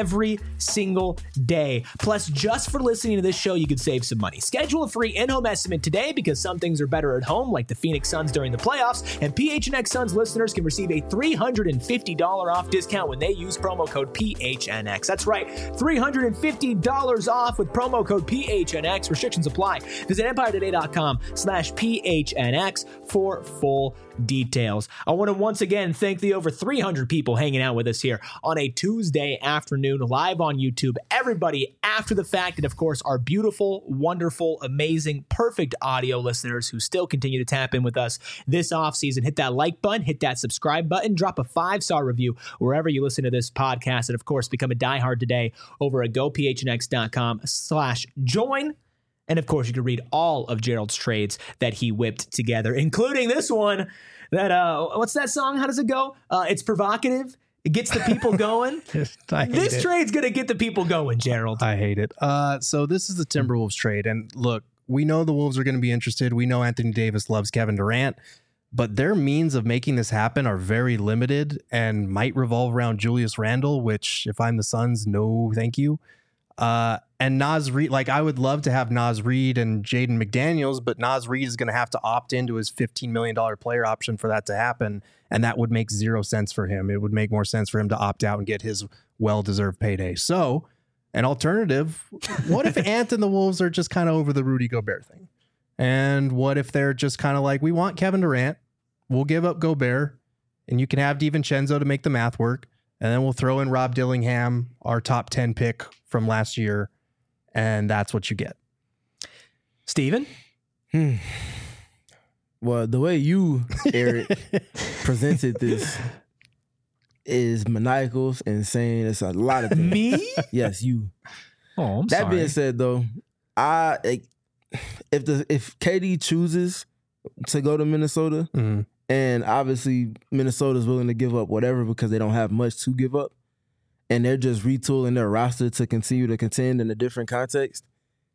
single day. Plus, just for listening to this show, you could save some money. Schedule a free in-home estimate today because some things are better at home, like the Phoenix Suns during the playoffs, and P H N X Suns listeners can receive a three hundred fifty dollars off discount when they use promo code P H N X. That's right, three hundred fifty dollars off with promo code P H N X. Restrictions apply. Visit empire today dot com slash P H N X for full details. I want to once again thank the over three hundred people hanging out with us here on a Tuesday afternoon live on YouTube. Everybody after the fact, and of course our beautiful, wonderful, amazing, perfect audio listeners who still continue to tap in with us this offseason. Hit that like button, hit that subscribe button, drop a five-star review wherever you listen to this podcast, and of course become a diehard today over at go P H N X dot com slash join. And of course, you can read all of Gerald's trades that he whipped together, including this one that, uh, what's that song? How does it go? Uh, it's provocative. It gets the people going. I hate this it. trade's going to get the people going, Gerald. I hate it. Uh, so this is the Timberwolves trade. And look, we know the Wolves are going to be interested. We know Anthony Davis loves Kevin Durant, but their means of making this happen are very limited and might revolve around Julius Randle, which if I'm the Suns, no, thank you. Uh, and Naz Reid, like I would love to have Naz Reid and Jaden McDaniels, but Naz Reid is going to have to opt into his fifteen million dollars player option for that to happen. And that would make zero sense for him. It would make more sense for him to opt out and get his well-deserved payday. So an alternative, what if Ant and the Wolves are just kind of over the Rudy Gobert thing? And what if they're just kind of like, we want Kevin Durant, we'll give up Gobert, and you can have DiVincenzo to make the math work. And then we'll throw in Rob Dillingham, our top ten pick from last year, and that's what you get. Steven? Hmm. Well, the way you, Eric, presented this is maniacal and saying it's a lot of things. Me? Yes, you. Oh, I'm that sorry. being said, though, I if the if K D chooses to go to Minnesota, Mm-hmm. and obviously Minnesota's willing to give up whatever because they don't have much to give up, and they're just retooling their roster to continue to contend in a different context,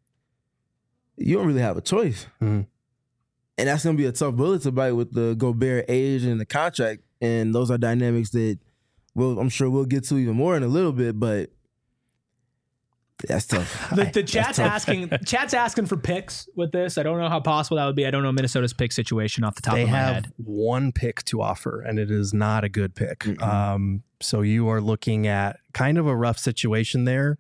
you don't really have a choice. Mm-hmm. And that's going to be a tough bullet to bite with the Gobert age and the contract. And those are dynamics that we'll, I'm sure we'll get to even more in a little bit, but that's tough. The, the chat's asking chat's asking for picks with this. I don't know how possible that would be. I don't know Minnesota's pick situation off the top They of my have head. one pick to offer, and it is not a good pick. Mm-mm. Um, so you are looking at kind of a rough situation there.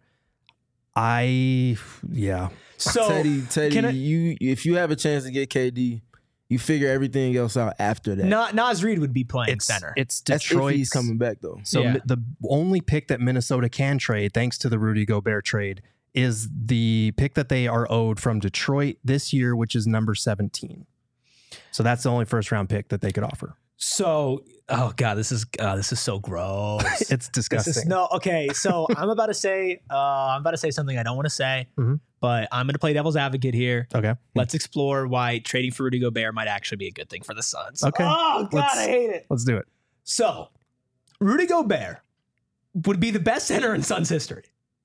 I, yeah. So Teddy, Teddy, can I- you if you have a chance to get K D, you figure everything else out after that. Na- Naz Reid would be playing It's, center. it's That's if Detroit's he's coming back though. So Yeah. mi- the only pick that Minnesota can trade, thanks to the Rudy Gobert trade, is the pick that they are owed from Detroit this year, which is number seventeen. So that's the only first round pick that they could offer. So, oh god, this is uh, this is so gross. It's This disgusting. is, no, okay. So I'm about to say, uh, I'm about to say something I don't want to say, Mhm. but I'm going to play devil's advocate here. Okay. Let's explore why trading for Rudy Gobert might actually be a good thing for the Suns. Okay. Oh god, Let's- I hate it. Let's do it. So, Rudy Gobert would be the best center in Suns history.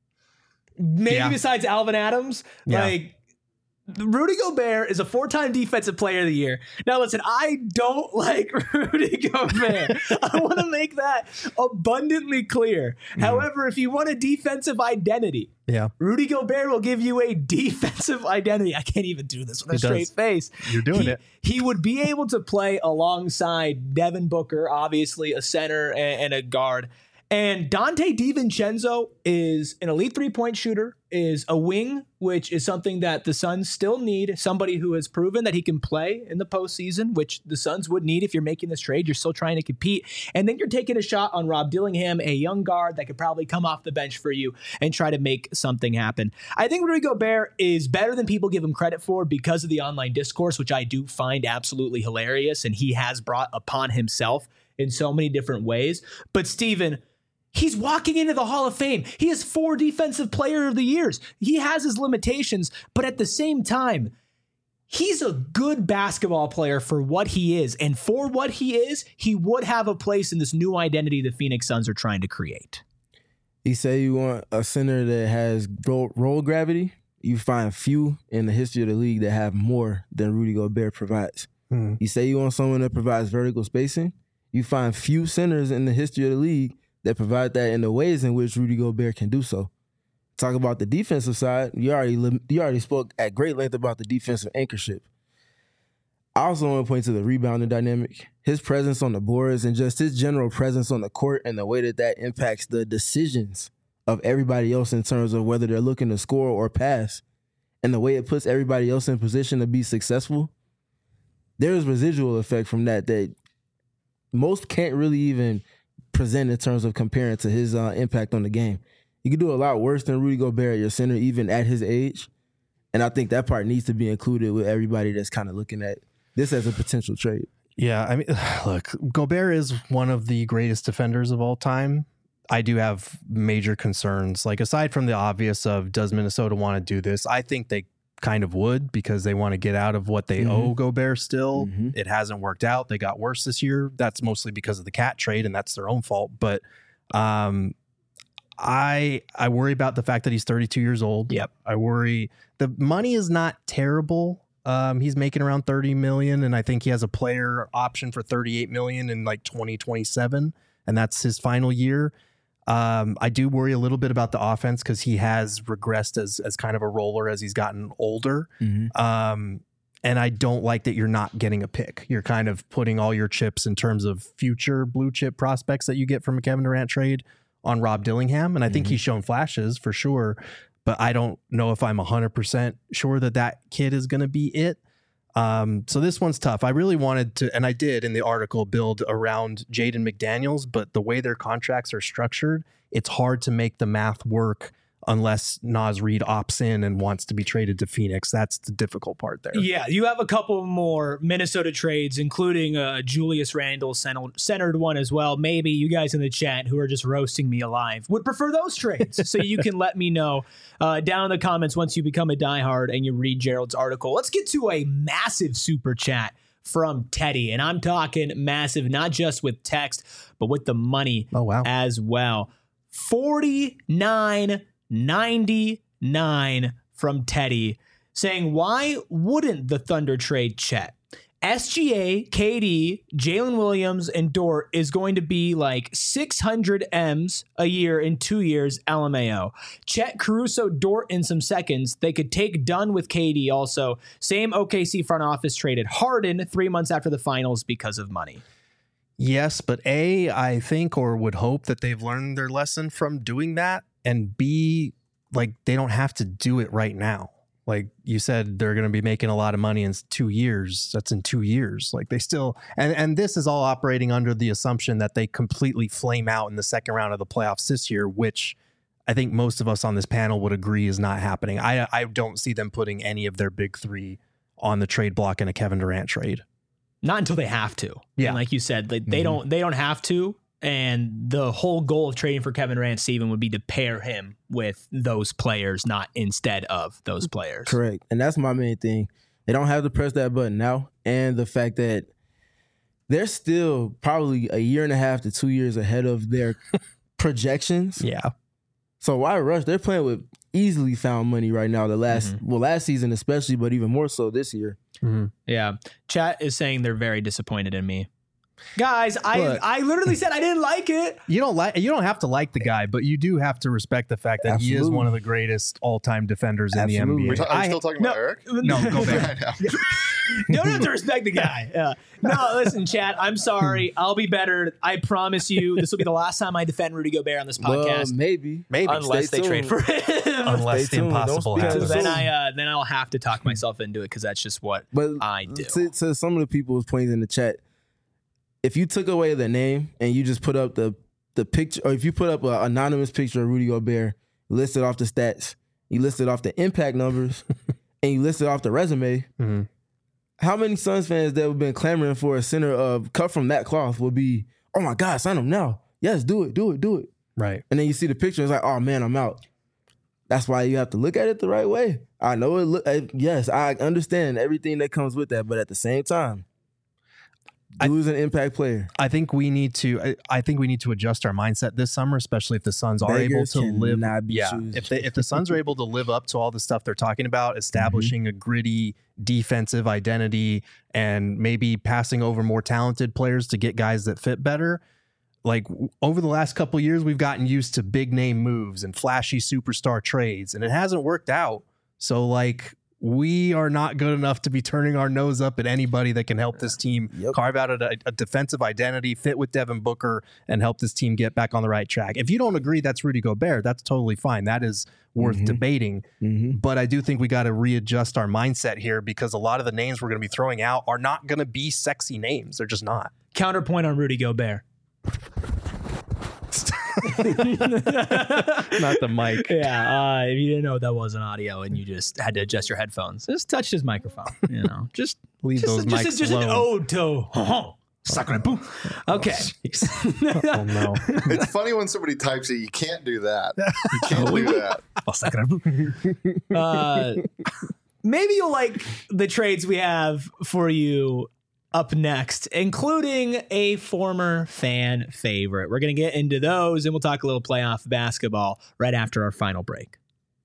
Maybe Yeah. besides Alvin Adams. Yeah. Like, Rudy Gobert is a four-time defensive player of the year. Now, listen, I don't like Rudy Gobert. I want to make that abundantly clear. Mm-hmm. However, if you want a defensive identity, Yeah. Rudy Gobert will give you a defensive identity. I can't even do this with a He straight does. face. You're doing he, it. He would be able to play alongside Devin Booker, obviously a center and, and a guard. And Dante DiVincenzo is an elite three-point shooter, is a wing, which is something that the Suns still need, somebody who has proven that he can play in the postseason, which the Suns would need if you're making this trade. You're still trying to compete. And then you're taking a shot on Rob Dillingham, a young guard that could probably come off the bench for you and try to make something happen. I think Rudy Gobert is better than people give him credit for because of the online discourse, which I do find absolutely hilarious, and he has brought upon himself in so many different ways. But Steven, he's walking into the Hall of Fame. He has four Defensive Player of the Years. He has his limitations, but at the same time, he's a good basketball player for what he is. And for what he is, he would have a place in this new identity the Phoenix Suns are trying to create. You say you want a center that has roll, roll gravity. You find few in the history of the league that have more than Rudy Gobert provides. Hmm. You say you want someone that provides vertical spacing. You find few centers in the history of the league that provide that in the ways in which Rudy Gobert can do so. Talk about the defensive side. You already you already spoke at great length about the defensive anchorship. I also want to point to the rebounding dynamic, his presence on the boards, and just his general presence on the court and the way that that impacts the decisions of everybody else in terms of whether they're looking to score or pass, and the way it puts everybody else in position to be successful. There's residual effect from that that most can't really even present in terms of comparing to his uh, impact on the game. You can do a lot worse than Rudy Gobert at your center, even at his age. And I think that part needs to be included with everybody that's kind of looking at this as a potential trade. Yeah, I mean, look, Gobert is one of the greatest defenders of all time. I do have major concerns. Like, aside from the obvious of does Minnesota want to do this, I think they kind of would because they want to get out of what they mm-hmm. owe Gobert still. Mm-hmm. It hasn't worked out. They got worse this year. That's mostly because of the cat trade, and that's their own fault. But um, I I worry about the fact that he's thirty-two years old. Yep. I worry. The money is not terrible. Um, he's making around thirty million, and I think he has a player option for thirty-eight million in like twenty twenty-seven, and that's his final year. Um, I do worry a little bit about the offense because he has regressed as as kind of a roller as he's gotten older. Mm-hmm. Um, and I don't like that you're not getting a pick. You're kind of putting all your chips in terms of future blue chip prospects that you get from a Kevin Durant trade on Rob Dillingham, and I think mm-hmm. he's shown flashes for sure. But I don't know if I'm one hundred percent sure that that kid is going to be it. Um, so this one's tough. I really wanted to, and I did in the article, build around Jaden McDaniels, but the way their contracts are structured, it's hard to make the math work unless Naz Reid opts in and wants to be traded to Phoenix. That's the difficult part there. Yeah, you have a couple more Minnesota trades, including a Julius Randle centered one as well. Maybe you guys in the chat who are just roasting me alive would prefer those trades. So you can let me know uh, down in the comments once you become a diehard and you read Gerald's article. Let's get to a massive super chat from Teddy. And I'm talking massive, not just with text, but with the money oh, wow. as well. forty-nine ninety-nine from Teddy saying, why wouldn't the Thunder trade Chet? S G A, K D, Jalen Williams, and Dort is going to be like six hundred M's a year in two years, L M A O. Chet, Caruso, Dort in some seconds. They could take Dunn with K D also. Same O K C front office traded Harden three months after the finals because of money. Yes, but A, I think or would hope that they've learned their lesson from doing that. And B, like, they don't have to do it right now. Like you said, they're going to be making a lot of money in two years. That's in two years. Like they still, and, and this is all operating under the assumption that they completely flame out in the second round of the playoffs this year, which I think most of us on this panel would agree is not happening. I, I don't see them putting any of their big three on the trade block in a Kevin Durant trade. Not until they have to. Yeah. And like you said, like, they mm-hmm. don't, they don't have to. And the whole goal of trading for Kevin Durant, Steven, would be to pair him with those players, not instead of those players. Correct. And that's my main thing. They don't have to press that button now. And the fact that they're still probably a year and a half to two years ahead of their projections. Yeah. So why rush? They're playing with easily found money right now. The last, mm-hmm. well, last season especially, but even more so this year. Mm-hmm. Yeah. Chat is saying they're very disappointed in me. Guys, I Look, I literally said I didn't like it. You don't like you don't have to like the guy, but you do have to respect the fact that Absolutely. he is one of the greatest all-time defenders Absolutely. in the N B A. Are, ta- are we still talking no, about Eric? No, go back. Don't have to respect the guy. Yeah. No, listen, chat. I'm sorry. I'll be better. I promise you. This will be the last time I defend Rudy Gobert on this podcast. Well, maybe, maybe unless Stay they tuned. trade for him. Unless the impossible happens. Then I uh, then I'll have to talk myself into it because that's just what but I do. To, to some of the people's points in the chat, if you took away the name and you just put up the the picture, or if you put up an anonymous picture of Rudy Gobert, listed off the stats, you listed off the impact numbers, and you listed off the resume, mm-hmm. how many Suns fans that have been clamoring for a center of cut from that cloth would be, oh my God, sign him now. Yes, do it, do it, do it. Right. And then you see the picture, it's like, oh man, I'm out. That's why you have to look at it the right way. I know it. Look, yes, I understand everything that comes with that, but at the same time, who's an impact player? I think we need to. I, I think we need to adjust our mindset this summer, especially if the Suns are Beggars able to live. Yeah, choosers. if they, if the Suns are able to live up to all the stuff they're talking about, establishing mm-hmm. a gritty defensive identity, and maybe passing over more talented players to get guys that fit better. like w- over the last couple of years, we've gotten used to big name moves and flashy superstar trades, and it hasn't worked out. So like we are not good enough to be turning our nose up at anybody that can help this team Yep. carve out a, a defensive identity, fit with Devin Booker, and help this team get back on the right track. If you don't agree that's Rudy Gobert, that's totally fine. That is worth Mhm. debating. Mm-hmm. But I do think we got to readjust our mindset here because a lot of the names we're going to be throwing out are not going to be sexy names. They're just not. Counterpoint on Rudy Gobert. Not the mic. Yeah, uh, if you didn't know that wasn't audio and you just had to adjust your headphones, just touch his microphone. You know, just Leave just, those just, mics just an alone. ode to oh, sacre boom. Okay. Oh no. It's funny when somebody types it. You can't do that. You can't do that. Oh, sacre boom. Uh, maybe you'll like the trades we have for you up next, including a former fan favorite. We're going to get into those, and we'll talk a little playoff basketball right after our final break.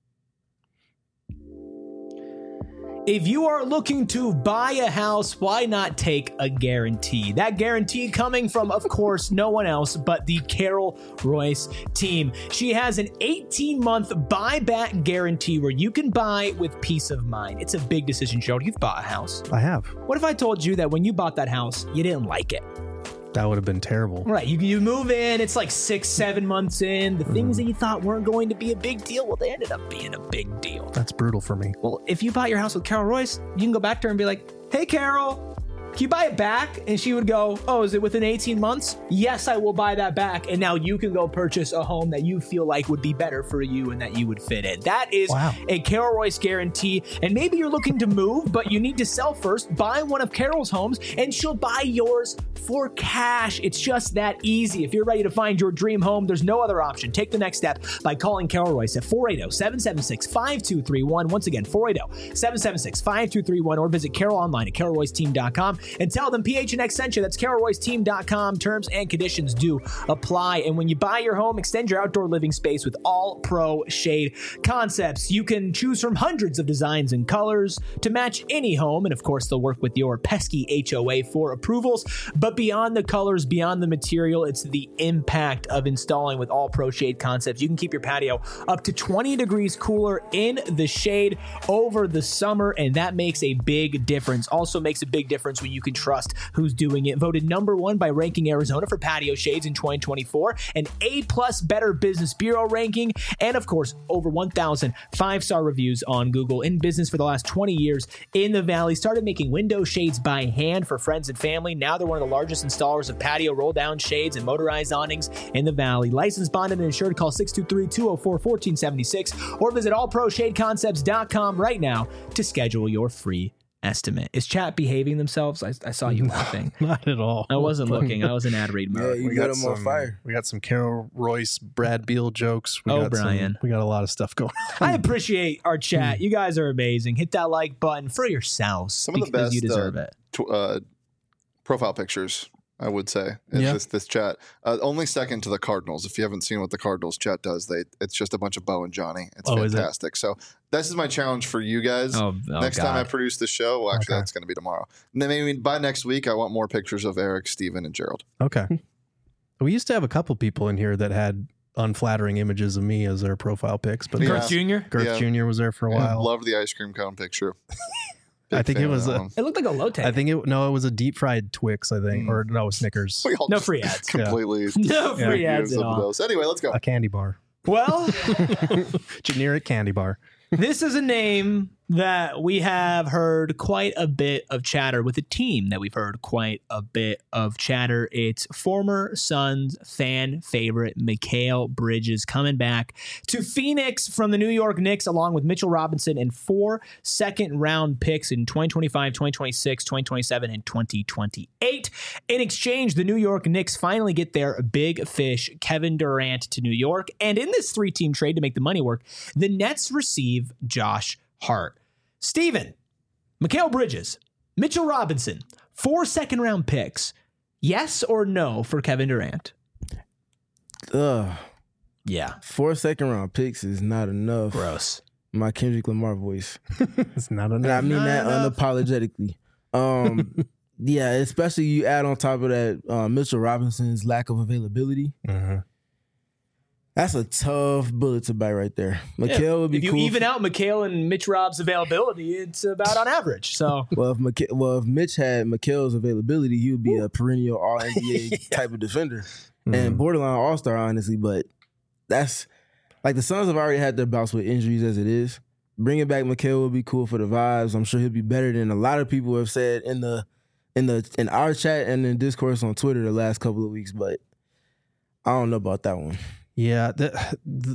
If you are looking to buy a house, why not take a guarantee? That guarantee coming from, of course, no one else but the Carol Royce team. She has an eighteen-month buyback guarantee where you can buy with peace of mind. It's a big decision, Joe. You've bought a house. I have. What if I told you that when you bought that house, you didn't like it? That would have been terrible. Right. You, you move in, it's like six, seven months in. The things that you thought weren't going to be a big deal, well, they ended up being a big deal. That's brutal for me. Well, if you bought your house with Carol Royce, you can go back to her and be like, hey, Carol, can you buy it back? And she would go, oh, is it within eighteen months? Yes, I will buy that back. And now you can go purchase a home that you feel like would be better for you and that you would fit in. That is Wow. a Carol Royce guarantee. And maybe you're looking to move, but you need to sell first. Buy one of Carol's homes and she'll buy yours for cash. It's just that easy. If you're ready to find your dream home, there's no other option. Take the next step by calling Carol Royce at four eight zero, seven seven six, five two three one. Once again, four eight zero, seven seven six, five two three one, or visit Carol online at carol royce team dot com and tell them P H N X sent you. That's carol royce team dot com. Terms and conditions do apply. And when you buy your home, extend your outdoor living space with all pro shade concepts. You can choose from hundreds of designs and colors to match any home. And of course, they'll work with your pesky H O A for approvals. But beyond the colors, beyond the material, it's the impact of installing with all pro shade concepts. You can keep your patio up to twenty degrees cooler in the shade over the summer, and that makes a big difference. Also makes a big difference when you can trust who's doing it. Voted number one by Ranking Arizona for patio shades in twenty twenty-four, an A plus Better Business Bureau ranking, and of course, over one thousand five-star reviews on Google. In business for the last twenty years in the Valley. Started making window shades by hand for friends and family. Now they're one of the largest installers of patio roll-down shades and motorized awnings in the Valley. Licensed, bonded, and insured. Call six two three, two oh four, one four seven six or visit all pro shade concepts dot com right now to schedule your free estimate. Is chat behaving themselves? I, I saw you laughing. Not at all. I wasn't looking. I was in ad read Yeah, mode. you We got got them on some- fire. We got some Carol Royce, Brad Beal jokes. We Oh, got some- Brian. we got a lot of stuff going on. I appreciate our chat. You guys are amazing. Hit that like button for yourselves Some of the because best, you deserve uh, it. Tw- uh, profile pictures, I would say, in Yeah. this this chat. Uh, only second to the Cardinals. If you haven't seen what the Cardinals chat does, they it's just a bunch of Bo and Johnny. It's Oh, is it? fantastic. So this is my challenge for you guys. Oh, oh Next time I God. produce the show, well, actually, Okay. that's going to be tomorrow. And then maybe by next week, I want more pictures of Eric, Steven, and Gerald. Okay. We used to have a couple people in here that had unflattering images of me as their profile pics, but Yeah. Girth Junior Girth Yeah. Junior was there for a Yeah, while. love the ice cream cone picture. I Big think fan it of was that a- one. It looked like a low take. I think it no, it was a deep fried Twix, I think, Mm. or no, Snickers, We all No just free ads. Completely. No Yeah. free use ads at some of all. those. Anyway, let's go. a candy bar, Well, generic candy bar. this is a name that we have heard quite a bit of chatter with, a team that we've heard quite a bit of chatter. It's former Suns fan favorite Mikal Bridges coming back to Phoenix from the New York Knicks, along with Mitchell Robinson and four second round picks in twenty twenty-five, twenty twenty-six, twenty twenty-seven, and twenty twenty-eight. In exchange, the New York Knicks finally get their big fish, Kevin Durant, to New York. And in this three-team trade to make the money work, the Nets receive Josh Hart. Steven, Mikal Bridges, Mitchell Robinson, four second round picks. Yes or no for Kevin Durant? Ugh. Yeah. Four second round picks is not enough. Gross. My Kendrick Lamar voice. It's not And enough. I mean Not that enough. unapologetically. Um, Yeah, especially you add on top of that uh, Mitchell Robinson's lack of availability. Mm-hmm. That's a tough bullet to bite right there. Mikal yeah. would be if you cool even for, out Mikal and Mitch Rob's availability, it's about on average. So well, if Mika, well, if Mitch had Mikal's availability, he would be a perennial All N B A yeah. type of defender Mm-hmm. and borderline All Star, honestly. But that's like the Suns have already had their bouts with injuries as it is. Bringing back Mikal would be cool for the vibes. I'm sure he'll be better than a lot of people have said in the in the in our chat and in discourse on Twitter the last couple of weeks. But I don't know about that one. Yeah. The, the,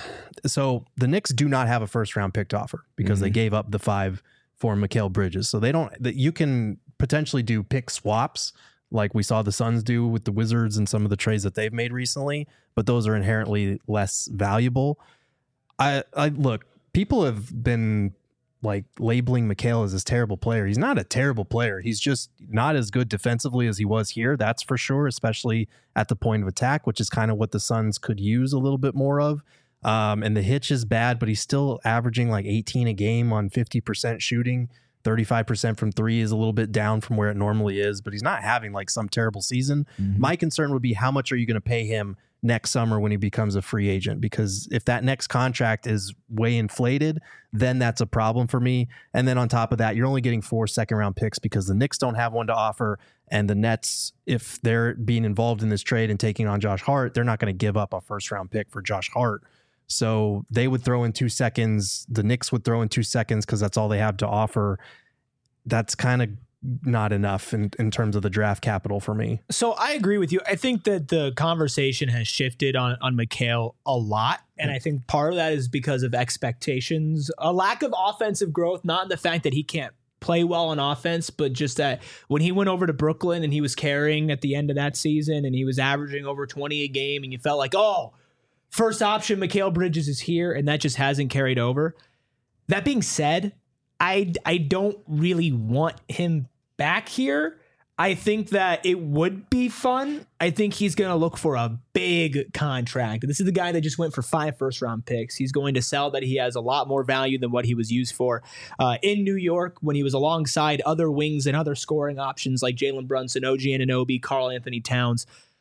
so the Knicks do not have a first round pick to offer because mm-hmm. they gave up the five for Mikal Bridges. So they don't, that you can potentially do pick swaps like we saw the Suns do with the Wizards and some of the trades that they've made recently, but those are inherently less valuable. I, I look, people have been like labeling Mikal as this terrible player. He's not a terrible player. He's just not as good defensively as he was here. That's for sure, especially at the point of attack, which is kind of what the Suns could use a little bit more of. Um, and the hitch is bad, but he's still averaging like eighteen a game on fifty percent shooting. thirty-five percent from three is a little bit down from where it normally is, but he's not having like some terrible season. Mm-hmm. My concern would be how much are you going to pay him next summer when he becomes a free agent? Because if that next contract is way inflated, then that's a problem for me. And then on top of that, you're only getting four second round picks because the Knicks don't have one to offer. And the Nets, if they're being involved in this trade and taking on Josh Hart, they're not going to give up a first round pick for Josh Hart. So they would throw in two seconds. The Knicks would throw in two seconds because that's all they have to offer. That's kind of not enough in, in terms of the draft capital for me. So I agree with you. I think that the conversation has shifted on, on Mikal a lot. And I think part of that is because of expectations, a lack of offensive growth, not in the fact that he can't play well on offense, but just that when he went over to Brooklyn and he was carrying at the end of that season and he was averaging over twenty a game and you felt like, oh, first option, Mikal Bridges is here, and that just hasn't carried over. That being said, I, I don't really want him back here. I think that it would be fun. I think he's going to look for a big contract. This is the guy that just went for five first round picks. He's going to sell that he has a lot more value than what he was used for uh, in New York when he was alongside other wings and other scoring options like Jalen Brunson, O G Anunoby, Karl Anthony Towns.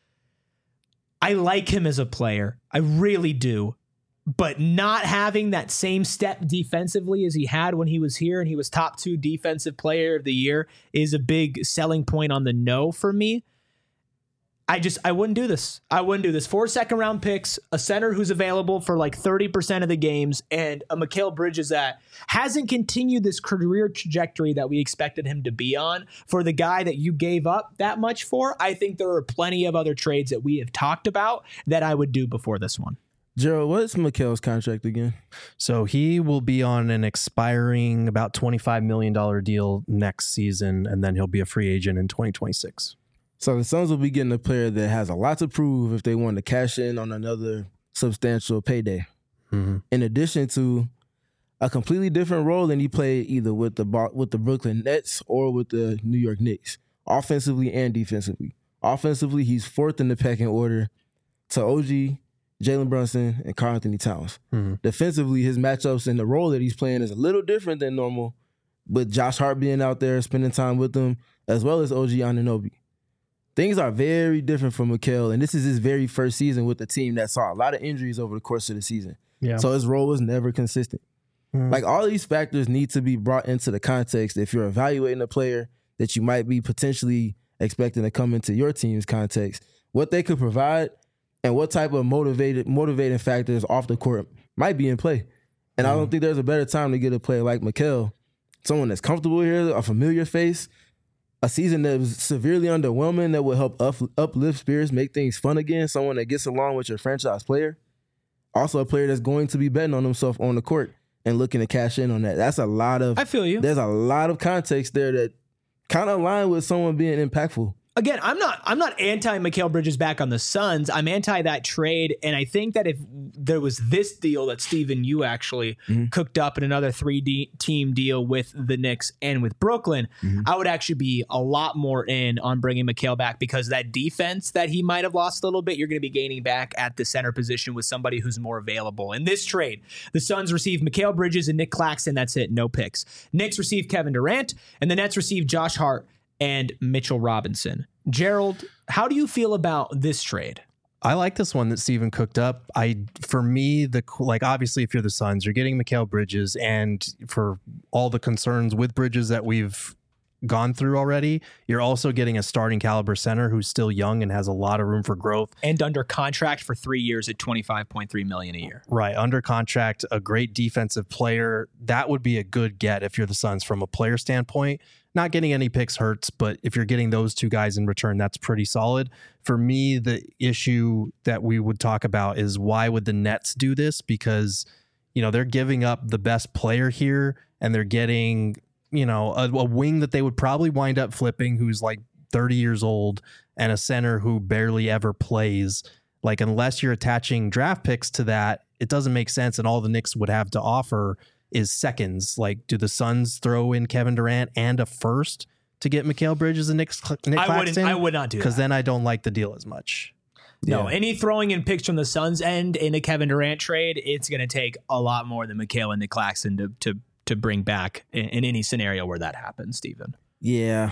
I like him as a player. I really do. But not having that same step defensively as he had when he was here and he was top two defensive player of the year is a big selling point on the no for me. I just, I wouldn't do this. I wouldn't do this. Four second round picks, a center who's available for like thirty percent of the games, and a Mikal Bridges that hasn't continued this career trajectory that we expected him to be on. For the guy that you gave up that much for, I think there are plenty of other trades that we have talked about that I would do before this one. Gerald, what's Mikal's contract again? So he will be on an expiring about twenty-five million dollars deal next season, and then he'll be a free agent in twenty twenty-six. So the Suns will be getting a player that has a lot to prove if they want to cash in on another substantial payday. Mm-hmm. In addition to a completely different role than he played either with the with the Brooklyn Nets or with the New York Knicks, offensively and defensively. Offensively, he's fourth in the pecking order to O G, Jalen Brunson, and Karl Anthony Towns. Mm-hmm. Defensively, his matchups and the role that he's playing is a little different than normal, with Josh Hart being out there spending time with them, as well as O G Anunoby. Things are very different for Mikal, and this is his very first season with a team that saw a lot of injuries over the course of the season. Yeah. So his role was never consistent. Mm-hmm. Like, all these factors need to be brought into the context if you're evaluating a player that you might be potentially expecting to come into your team's context, what they could provide, and what type of motivated motivating factors off the court might be in play. And mm. I don't think there's a better time to get a player like Mikal, someone that's comfortable here, a familiar face, a season that was severely underwhelming that will help up, uplift spirits, make things fun again, someone that gets along with your franchise player. Also a player that's going to be betting on himself on the court and looking to cash in on that. That's a lot of... I feel you. There's a lot of context there that kind of align with someone being impactful. Again, I'm not I'm not anti Mikal Bridges back on the Suns. I'm anti that trade, and I think that if there was this deal that Steven, you actually mm-hmm. cooked up in another three-team deal with the Knicks and with Brooklyn, mm-hmm. I would actually be a lot more in on bringing Mikal back, because that defense that he might have lost a little bit, you're going to be gaining back at the center position with somebody who's more available. In this trade, the Suns receive Mikal Bridges and Nick Claxton. That's it, no picks. Knicks receive Kevin Durant, and the Nets receive Josh Hart and Mitchell Robinson. Gerald, how do you feel about this trade? I like this one that Steven cooked up. I, for me, the like obviously if you're the Suns, you're getting Mikal Bridges, and for all the concerns with Bridges that we've gone through already, you're also getting a starting caliber center who's still young and has a lot of room for growth and under contract for three years at twenty-five point three million dollars a year. Right, under contract, a great defensive player. That would be a good get if you're the Suns from a player standpoint. Not getting any picks hurts, but if you're getting those two guys in return, that's pretty solid. For me, the issue that we would talk about is why would the Nets do this? Because, you know, they're giving up the best player here, and they're getting, you know, a, a wing that they would probably wind up flipping who's like thirty years old, and a center who barely ever plays. Like, unless you're attaching draft picks to that, it doesn't make sense. And all the Knicks would have to offer is seconds. Like, do the Suns throw in Kevin Durant and a first to get Mikal Bridges and Nick, Nick I Claxton? wouldn't. I would not do that, because then I don't like the deal as much. No, Yeah. any throwing in picks from the Suns end in a Kevin Durant trade, it's going to take a lot more than Mikal and Nick Claxton to to to bring back in, in any scenario where that happens, Steven. Yeah.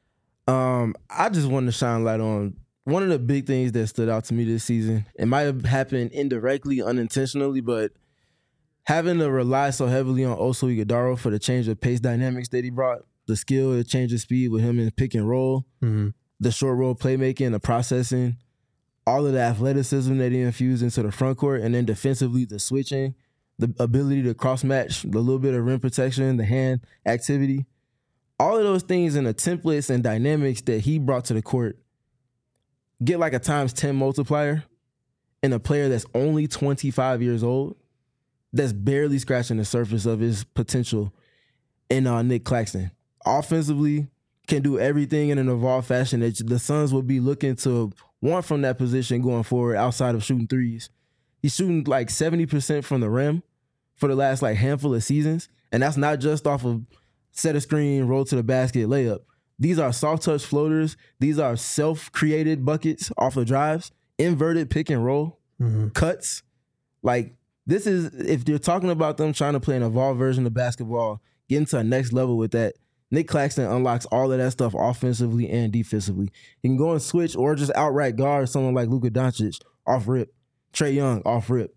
Um, I just wanted to shine light on one of the big things that stood out to me this season. It might have happened indirectly, unintentionally, but having to rely so heavily on Oso Ighodaro for the change of pace dynamics that he brought, the skill, the change of speed with him in pick and roll, Mm-hmm. the short roll playmaking, the processing, all of the athleticism that he infused into the front court, and then defensively the switching, the ability to cross match, the little bit of rim protection, the hand activity, all of those things and the templates and dynamics that he brought to the court get like a times ten multiplier in a player that's only twenty-five years old, that's barely scratching the surface of his potential in uh, Nick Claxton. Offensively, can do everything in an evolved fashion that the Suns will be looking to want from that position going forward outside of shooting threes. He's shooting like seventy percent from the rim for the last like handful of seasons, and that's not just off of set a screen, roll to the basket, layup. These are soft touch floaters. These are self-created buckets off of drives, inverted pick and roll, Mm-hmm. cuts. Like, this is, if you're talking about them trying to play an evolved version of basketball, getting to a next level with that, Nick Claxton unlocks all of that stuff offensively and defensively. He can go and switch or just outright guard someone like Luka Doncic off rip, Trae Young off rip,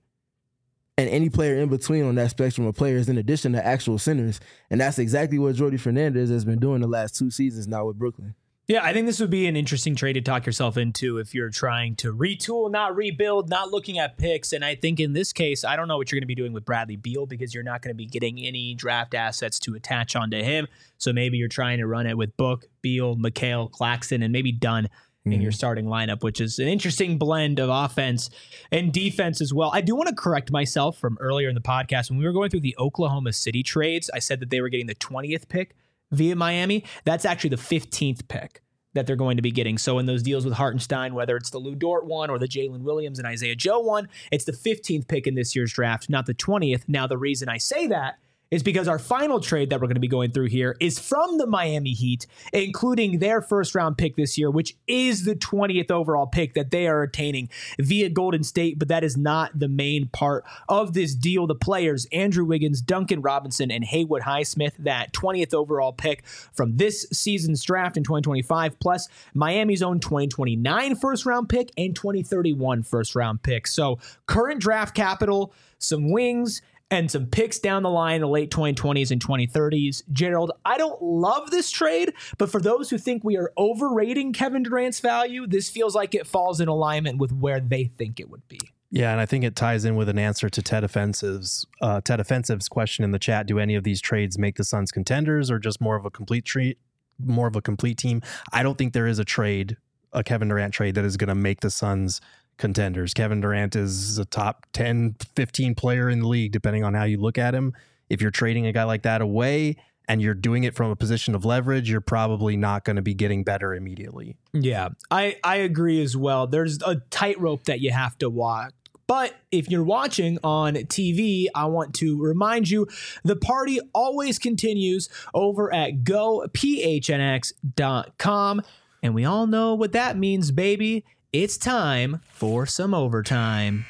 and any player in between on that spectrum of players in addition to actual centers. And that's exactly what Jordy Fernandez has been doing the last two seasons now with Brooklyn. Yeah, I think this would be an interesting trade to talk yourself into if you're trying to retool, not rebuild, not looking at picks. And I think in this case, I don't know what you're going to be doing with Bradley Beal because you're not going to be getting any draft assets to attach onto him. So maybe you're trying to run it with Book, Beal, Mikal, Claxton, and maybe Dunn in mm-hmm. your starting lineup, which is an interesting blend of offense and defense as well. I do want to correct myself from earlier in the podcast. When we were going through the Oklahoma City trades, I said that they were getting the twentieth pick via Miami. That's actually the fifteenth pick that they're going to be getting. So in those deals with Hartenstein, whether it's the Lou Dort one or the Jalen Williams and Isaiah Joe one, it's the fifteenth pick in this year's draft, not the twentieth. Now, the reason I say that is because our final trade that we're going to be going through here is from the Miami Heat, including their first round pick this year, which is the twentieth overall pick that they are attaining via Golden State. But that is not the main part of this deal. The players, Andrew Wiggins, Duncan Robinson, and Haywood Highsmith, that twentieth overall pick from this season's draft in twenty twenty-five, plus Miami's own twenty twenty-nine first round pick and twenty thirty-one first round pick. So current draft capital, some wings, and some picks down the line in the late twenty twenties and twenty thirties. Gerald, I don't love this trade, but for those who think we are overrating Kevin Durant's value, this feels like it falls in alignment with where they think it would be. Yeah, and I think it ties in with an answer to Ted Offensive's uh, Ted Offensive's question in the chat. Do any of these trades make the Suns contenders or just more of a complete treat, more of a complete team? I don't think there is a trade, a Kevin Durant trade, that is going to make the Suns contenders. Kevin Durant is a top ten, fifteen player in the league, depending on how you look at him. If you're trading a guy like that away and you're doing it from a position of leverage, you're probably not going to be getting better immediately. Yeah, I, I agree as well. There's a tightrope that you have to walk. But if you're watching on T V, I want to remind you, the party always continues over at go p h n x dot com. And we all know what that means, baby. It's time for some overtime.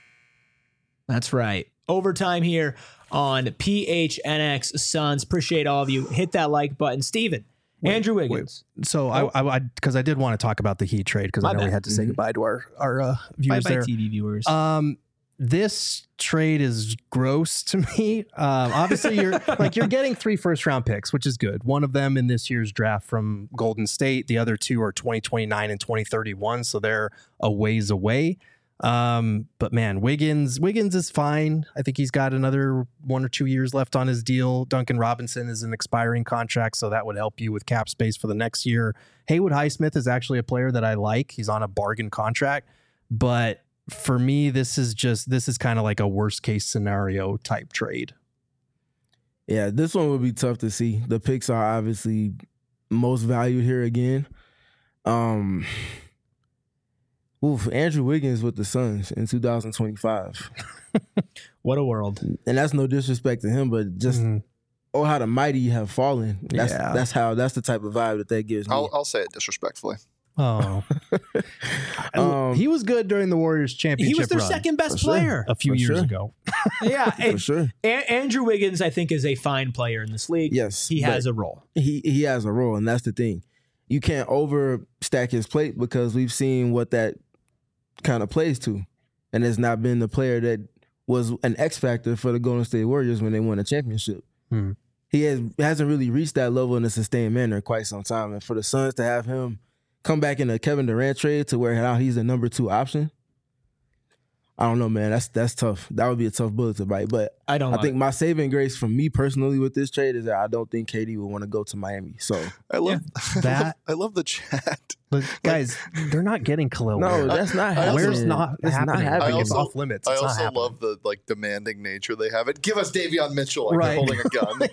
That's right. Overtime here on P H N X Suns. Appreciate all of you. Hit that like button. Steven, Andrew Wiggins. So oh. I, I, because I, I did want to talk about the Heat trade because I know bad. we had to say mm-hmm. goodbye to our our uh, viewers bye there. Bye T V viewers. Um, this trade is gross to me. Um, obviously, you're like you're getting three first round picks, which is good. One of them in this year's draft from Golden State. The other two are twenty twenty-nine and twenty thirty-one, so they're a ways away. Um, but man, Wiggins, Wiggins is fine. I think he's got another one or two years left on his deal. Duncan Robinson is an expiring contract, so that would help you with cap space for the next year. Haywood Highsmith is actually a player that I like. He's on a bargain contract, but for me, this is just, this is kind of like a worst case scenario type trade. Yeah, this one would be tough to see. The picks are obviously most valued here again. Um, oof, Andrew Wiggins with the Suns in two thousand twenty-five. What a world. And that's no disrespect to him, but just, mm-hmm. oh, how the mighty have fallen. That's yeah. that's how, that's the type of vibe that that gives me. I'll, I'll say it disrespectfully. Oh, um, he was good during the Warriors championship. He was their run, second best sure. player a few for years sure. ago. Yeah, for and, sure. A- Andrew Wiggins, I think, is a fine player in this league. Yes, he has a role. He he has a role, and that's the thing. You can't overstack his plate because we've seen what that kind of plays to, and has not been the player that was an X factor for the Golden State Warriors when they won a championship. Hmm. He has hasn't really reached that level in a sustained manner in quite some time, and for the Suns to have him come back in a Kevin Durant trade to where now he's the number two option, I don't know, man. That's that's tough. That would be a tough bullet to bite. But I don't. I know. think my saving grace for me personally with this trade is that I don't think K D would want to go to Miami. So I love yeah. that. I love, I love the chat. But guys, like, they're not getting Khalil. No, Ware. that's not happening. Where's Where's not it's happening? not happening. Like, it's also, off limits. I It's also not love the like demanding nature they have. It give us Davion Mitchell like right. holding a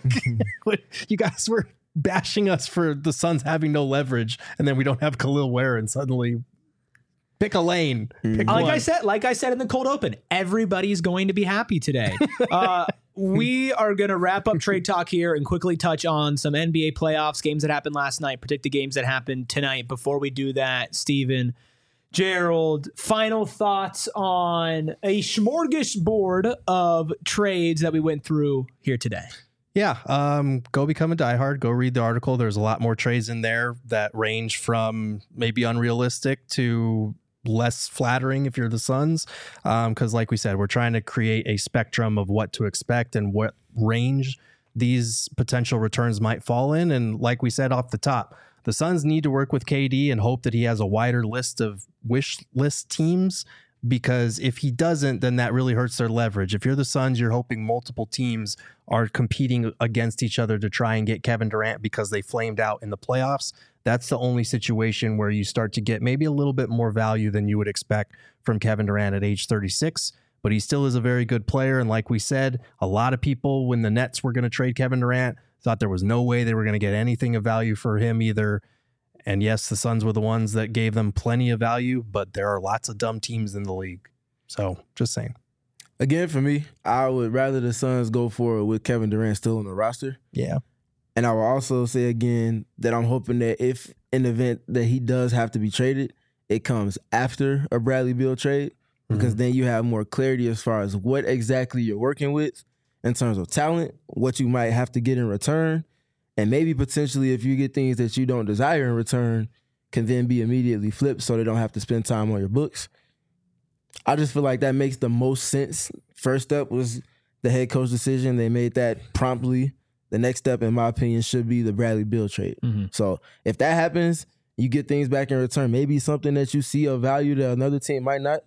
gun. You guys were bashing us for the Suns having no leverage, and then we don't have Khalil Ware, and suddenly pick a lane. Pick like one. I said, like I said in the cold open, everybody's going to be happy today. uh, we are going to wrap up trade talk here and quickly touch on some N B A playoffs, games that happened last night, predict the games that happened tonight. Before we do that, Steven, Gerald, final thoughts on a smorgasbord of trades that we went through here today. Yeah, um, go become a diehard. Go read the article. There's a lot more trades in there that range from maybe unrealistic to less flattering if you're the Suns. Because um, like we said, we're trying to create a spectrum of what to expect and what range these potential returns might fall in. And like we said off the top, the Suns need to work with K D and hope that he has a wider list of wish list teams, because if he doesn't, then that really hurts their leverage. If you're the Suns, you're hoping multiple teams are competing against each other to try and get Kevin Durant because they flamed out in the playoffs. That's the only situation where you start to get maybe a little bit more value than you would expect from Kevin Durant at age thirty-six. But he still is a very good player. And like we said, a lot of people, when the Nets were going to trade Kevin Durant, thought there was no way they were going to get anything of value for him either. And yes, the Suns were the ones that gave them plenty of value, but there are lots of dumb teams in the league. So just saying. Again, for me, I would rather the Suns go for it with Kevin Durant still on the roster. Yeah. And I will also say again that I'm hoping that if in the event that he does have to be traded, it comes after a Bradley Beal trade, because mm-hmm. then you have more clarity as far as what exactly you're working with in terms of talent, what you might have to get in return, and maybe potentially if you get things that you don't desire in return, can then be immediately flipped so they don't have to spend time on your books. I just feel like that makes the most sense. First step was the head coach decision. They made that promptly. The next step, in my opinion, should be the Bradley Beal trade. Mm-hmm. So if that happens, you get things back in return. Maybe something that you see of value that another team might not.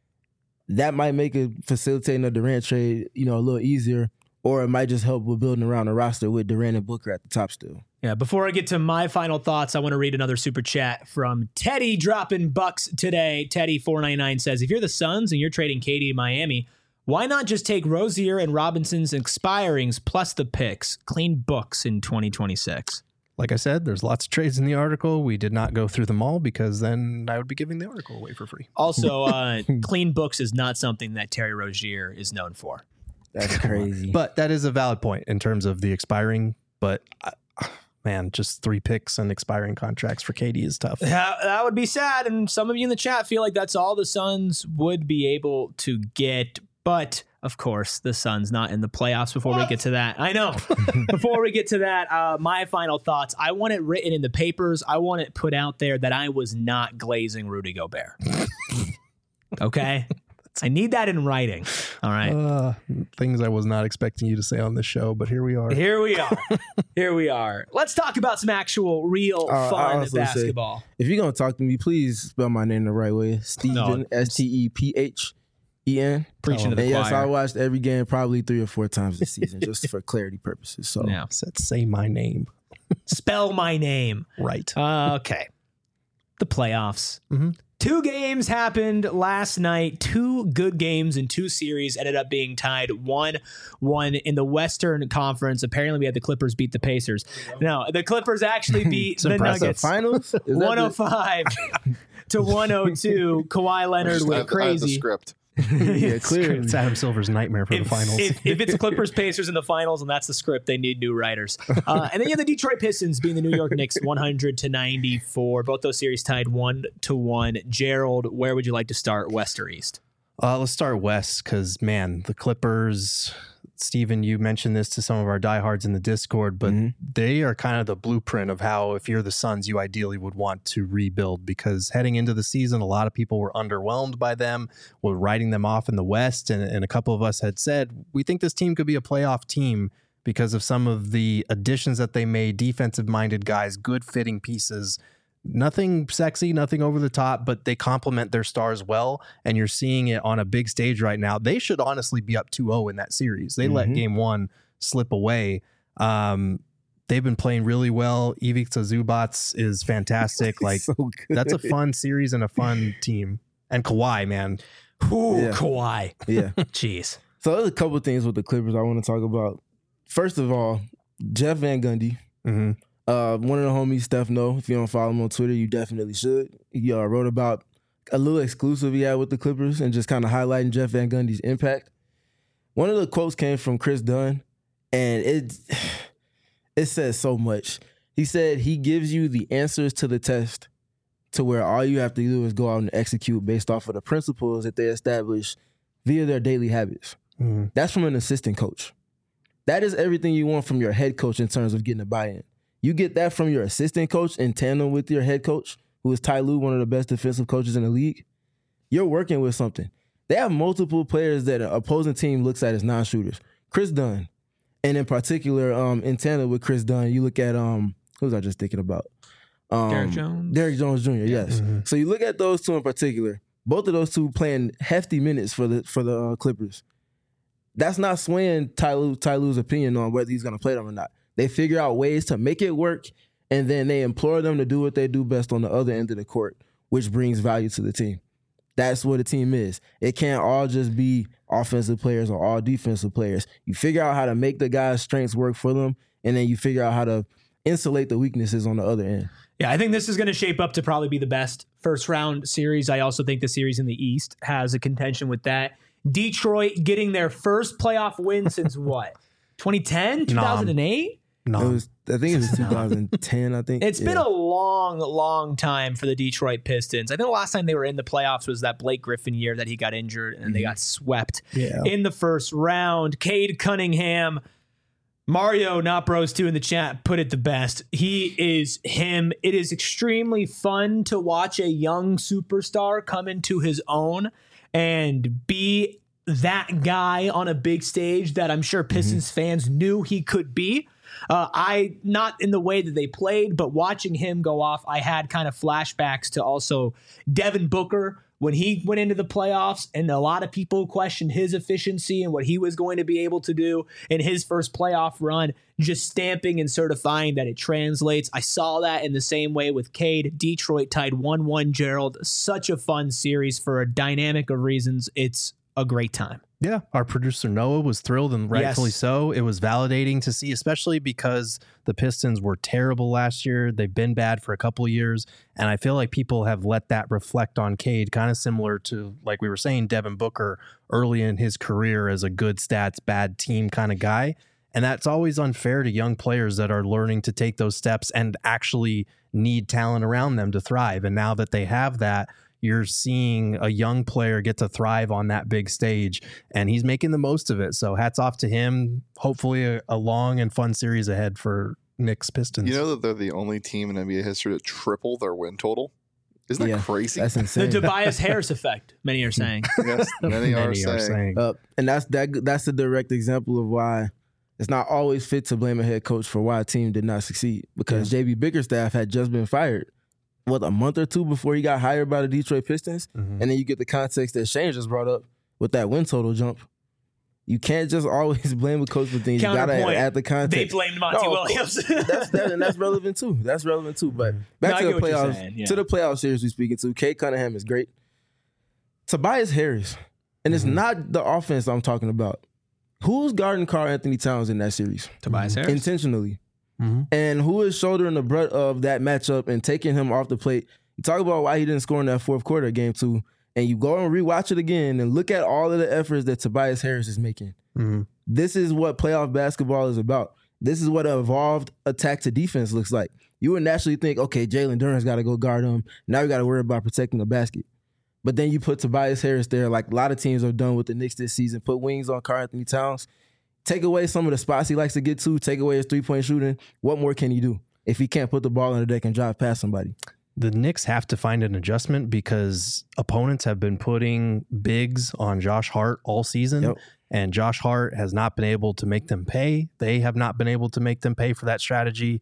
That might make it facilitating a Durant trade, you know, a little easier. Or it might just help with building around a roster with Durant and Booker at the top still. Yeah, before I get to my final thoughts, I want to read another super chat from Teddy dropping bucks today. Teddy four ninety-nine says, if you're the Suns and you're trading K D to Miami, why not just take Rozier and Robinson's expirings plus the picks? Clean books in twenty twenty-six. Like I said, there's lots of trades in the article. We did not go through them all because then I would be giving the article away for free. Also, uh, clean books is not something that Terry Rozier is known for. That's crazy. But that is a valid point in terms of the expiring. But uh, man, just three picks and expiring contracts for K D is tough. That, that would be sad. And some of you in the chat feel like that's all the Suns would be able to get. But of course, the Suns not in the playoffs. Before what? we get to that, I know. Before we get to that, uh, my final thoughts. I want it written in the papers. I want it put out there that I was not glazing Rudy Gobert. Okay? I need that in writing. All right. Uh, things I was not expecting you to say on this show, but here we are. Here we are. Here we are. Let's talk about some actual, real, uh, fun basketball. Say, if you're going to talk to me, please spell my name the right way. Stephen, no. S T E P H E N. Preaching to the and choir. Yes, I watched every game probably three or four times this season, just for clarity purposes. So, yeah. Said, say my name. Spell my name. Right. Uh, okay. The playoffs. Mm-hmm. Two games happened last night. Two good games in two series ended up being tied one one in the Western Conference. Apparently, we had the Clippers beat the Pacers. No, the Clippers actually beat the Nuggets. Finals? one oh five to one oh two. Kawhi Leonard went crazy. I have the script. Yeah, clearly. It's Adam Silver's nightmare for if, the finals. If, if it's Clippers Pacers in the finals and that's the script, they need new writers. Uh, and then you have the Detroit Pistons being the New York Knicks one hundred to ninety-four. Both those series tied one to one. Gerald, where would you like to start, west or east? Uh, let's start west because, man, the Clippers, Steven, you mentioned this to some of our diehards in the Discord, but mm-hmm. they are kind of the blueprint of how, if you're the Suns, you ideally would want to rebuild, because heading into the season, a lot of people were underwhelmed by them, were writing them off in the West, and, and a couple of us had said, we think this team could be a playoff team because of some of the additions that they made, defensive-minded guys, good-fitting pieces. Nothing sexy, nothing over the top, but they complement their stars well, and you're seeing it on a big stage right now. They should honestly be up two oh in that series. They mm-hmm. let game one slip away. Um, they've been playing really well. Ivica Zubac is fantastic. Like so that's a fun series and a fun team. And Kawhi, man. Ooh, yeah. Kawhi. Yeah. Jeez. So there's a couple of things with the Clippers I want to talk about. First of all, Jeff Van Gundy. Mm-hmm. Uh, one of the homies, Steph No, if you don't follow him on Twitter, you definitely should. He uh, wrote about a little exclusive he had with the Clippers and just kind of highlighting Jeff Van Gundy's impact. One of the quotes came from Chris Dunn, and it, it says so much. He said he gives you the answers to the test to where all you have to do is go out and execute based off of the principles that they establish via their daily habits. Mm-hmm. That's from an assistant coach. That is everything you want from your head coach in terms of getting a buy-in. You get that from your assistant coach in tandem with your head coach, who is Ty Lue, one of the best defensive coaches in the league. You're working with something. They have multiple players that an opposing team looks at as non-shooters. Chris Dunn, and in particular, um, in tandem with Chris Dunn, you look at, um, who was I just thinking about? Um, Derrick Jones? Derrick Jones Junior, yes. Mm-hmm. So you look at those two in particular, both of those two playing hefty minutes for the for the uh, Clippers. That's not swaying Ty Lue, Ty Lue's opinion on whether he's going to play them or not. They figure out ways to make it work, and then they implore them to do what they do best on the other end of the court, which brings value to the team. That's what a team is. It can't all just be offensive players or all defensive players. You figure out how to make the guys' strengths work for them, and then you figure out how to insulate the weaknesses on the other end. Yeah, I think this is going to shape up to probably be the best first round series. I also think the series in the East has a contention with that. Detroit getting their first playoff win since what? twenty ten? two thousand eight? No. It was, I think it was two thousand ten, I think. It's yeah. been a long, long time for the Detroit Pistons. I think the last time they were in the playoffs was that Blake Griffin year that he got injured and mm-hmm. they got swept yeah. in the first round. Cade Cunningham, Mario Not Bros two in the chat put it the best. He is him. It is extremely fun to watch a young superstar come into his own and be that guy on a big stage that I'm sure Pistons mm-hmm. fans knew he could be. Uh, I, not in the way that they played, but watching him go off, I had kind of flashbacks to also Devin Booker when he went into the playoffs, and a lot of people questioned his efficiency and what he was going to be able to do in his first playoff run, just stamping and certifying that it translates. I saw that in the same way with Cade. Detroit tied one one, Gerald. Such a fun series for a dynamic of reasons. It's a great time. Yeah, our producer Noah was thrilled, and rightfully yes. so. It was validating to see, especially because the Pistons were terrible last year. They've been bad for a couple of years, and I feel like people have let that reflect on Cade, kind of similar to, like we were saying, Devin Booker early in his career as a good stats, bad team kind of guy. And that's always unfair to young players that are learning to take those steps and actually need talent around them to thrive. And now that they have that, you're seeing a young player get to thrive on that big stage, and he's making the most of it. So hats off to him. Hopefully a, a long and fun series ahead for Knicks Pistons. You know that they're the only team in N B A history to triple their win total? Isn't that Yeah, crazy? That's The insane. Tobias Harris effect, many are saying. Yes, many, are, saying. Uh, and that's that. That's a direct example of why it's not always fit to blame a head coach for why a team did not succeed. Because J B Bickerstaff had just been fired, what, a month or two before he got hired by the Detroit Pistons, Mhm. and then you get the context that Shane just brought up with that win total jump. You can't just always blame a coach for things. You gotta Counterpoint. add the context. They blamed Monty No, of Williams. that's that, and that's relevant too. That's relevant too. But back No, I to get the what you're playoffs. saying, yeah. To the playoff series we speaking to. Kate Cunningham is great. Tobias Harris, and it's Mhm. not the offense I'm talking about. Who's guarding Karl Anthony Towns in that series Tobias Harris. intentionally, Mhm. and who is shouldering the brunt of that matchup and taking him off the plate? You talk about why he didn't score in that fourth quarter of game two, and you go and rewatch it again and look at all of the efforts that Tobias Harris is making. Mhm. This is what playoff basketball is about. This is what an evolved attack to defense looks like. You would naturally think, okay, Jalen Duren's got to go guard him. Now we got to worry about protecting the basket. But then you put Tobias Harris there, like a lot of teams have done with the Knicks this season. Put wings on Karl Anthony Towns. Take away some of the spots he likes to get to. Take away his three-point shooting. What more can he do if he can't put the ball on the deck and drive past somebody? The Knicks have to find an adjustment because opponents have been putting bigs on Josh Hart all season. Yep. And Josh Hart has not been able to make them pay. They have not been able to make them pay for that strategy.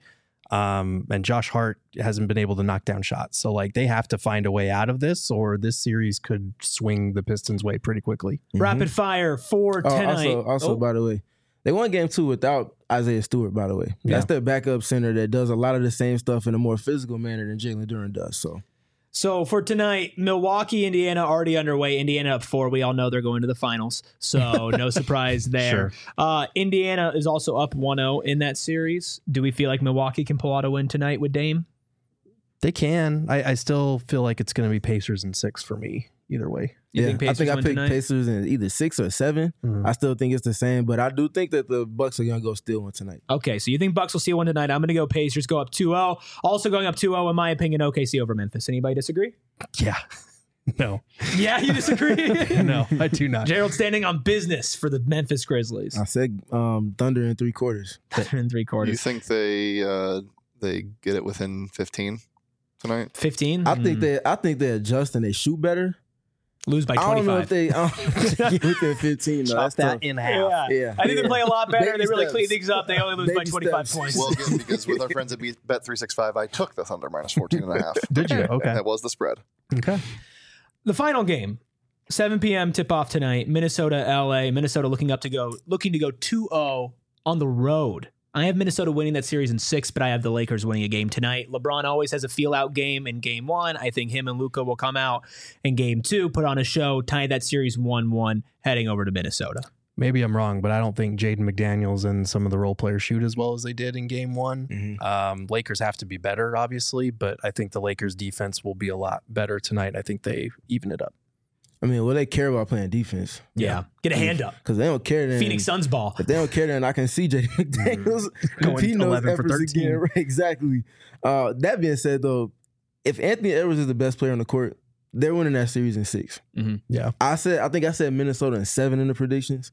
Um, and Josh Hart hasn't been able to knock down shots. So, like, they have to find a way out of this, or this series could swing the Pistons' way pretty quickly. Rapid fire for Oh, tonight. also, also Oh, by the way, they won game two without Isaiah Stewart, by the way. That's their backup center that does a lot of the same stuff in a more physical manner than Jalen Duren does. So So for tonight, Milwaukee, Indiana already underway. Indiana up four. We all know they're going to the finals. So no surprise there. Sure. Uh, Indiana is also up one oh in that series. Do we feel like Milwaukee can pull out a win tonight with Dame? They can. I, I still feel like it's going to be Pacers in six for me, either way. You yeah, think Pacers I think I win picked tonight? Pacers in either six or seven. Mhm. I still think it's the same, but I do think that the Bucks are gonna go steal one tonight. Okay, so you think Bucks will steal one tonight. I'm going to go Pacers, go up two oh. Also going up two oh, in my opinion, O K C over Memphis. Anybody disagree? Yeah. No. Yeah, you disagree? No, I do not. Gerald standing on business for the Memphis Grizzlies. I said um, Thunder in three quarters. in three You quarters. think they uh, they get it within fifteen tonight? fifteen? I think they I think they adjust and they shoot better. lose by I don't know if twenty-five. they, I don't think they get within fifteen. though. Chop That's that tough. in half. Yeah. Yeah, I think yeah. they play a lot better. Baby they really steps. clean things up. They only lose by Baby twenty-five steps. points. Well, good, because with our friends at Bet three sixty-five, I took the Thunder minus fourteen and a half. Did you? Okay. That was the spread. Okay. The final game, seven p.m. tip off tonight. Minnesota, L A. Minnesota looking up to go, looking to go two oh on the road. I have Minnesota winning that series in six, but I have the Lakers winning a game tonight. LeBron always has a feel out game in game one. I think him and Luka will come out in game two, put on a show, tie that series one one, heading over to Minnesota. Maybe I'm wrong, but I don't think Jaden McDaniels and some of the role players shoot as well as they did in game one. Mhm. Um, Lakers have to be better, obviously, but I think the Lakers defense will be a lot better tonight. I think they even it up. I mean, well, they care about playing defense Yeah. Get a hand up. because they don't care. Then, Phoenix Suns ball. If they don't care, then I can see J D McDaniels Going repeating those eleven for efforts thirteen. again. Right, exactly. Uh, that being said, though, if Anthony Edwards is the best player on the court, they're winning that series in six. Yeah. I said, I think I said Minnesota in seven in the predictions.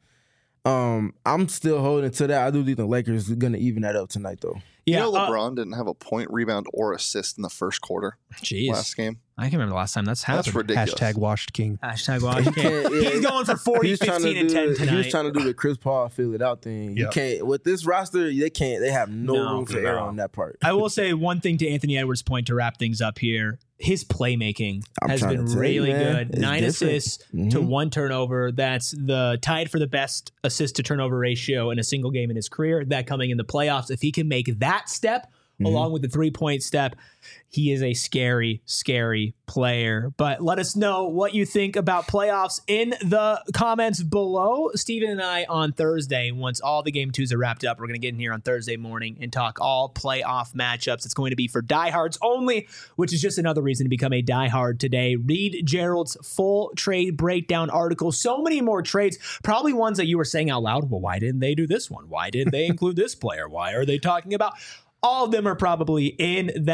Um, I'm still holding to that. I do think the Lakers are going to even that up tonight, though. Yeah. you know uh, LeBron didn't have a point, rebound, or assist in the first quarter Jeez. last game? I can remember the last time that's happened. That's ridiculous. Hashtag washed king. Hashtag Washington. can't- yeah. He's going for forty, He's trying to fifteen, and do ten the- tonight. He was trying to do the Chris Paul feel it out thing. You Yep. can't with this roster. They can't. They have no, No, room for no. error on that part. I will say one thing to Anthony Edwards' point to wrap things up here. His playmaking I'm has trying been to tell you, really man. good. It's Nine different. assists to Mhm. one turnover. That's the tied for the best assist to turnover ratio in a single game in his career. That coming in the playoffs. If he can make that step Mhm. along with the three-point step, he is a scary, scary player. But let us know what you think about playoffs in the comments below. Steven and I on Thursday, once all the game twos are wrapped up, we're going to get in here on Thursday morning and talk all playoff matchups. It's going to be for diehards only, which is just another reason to become a diehard today. Read Gerald's full trade breakdown article. So many more trades, probably ones that you were saying out loud. Well, why didn't they do this one? Why didn't they include this player? Why are they talking about? All of them are probably in that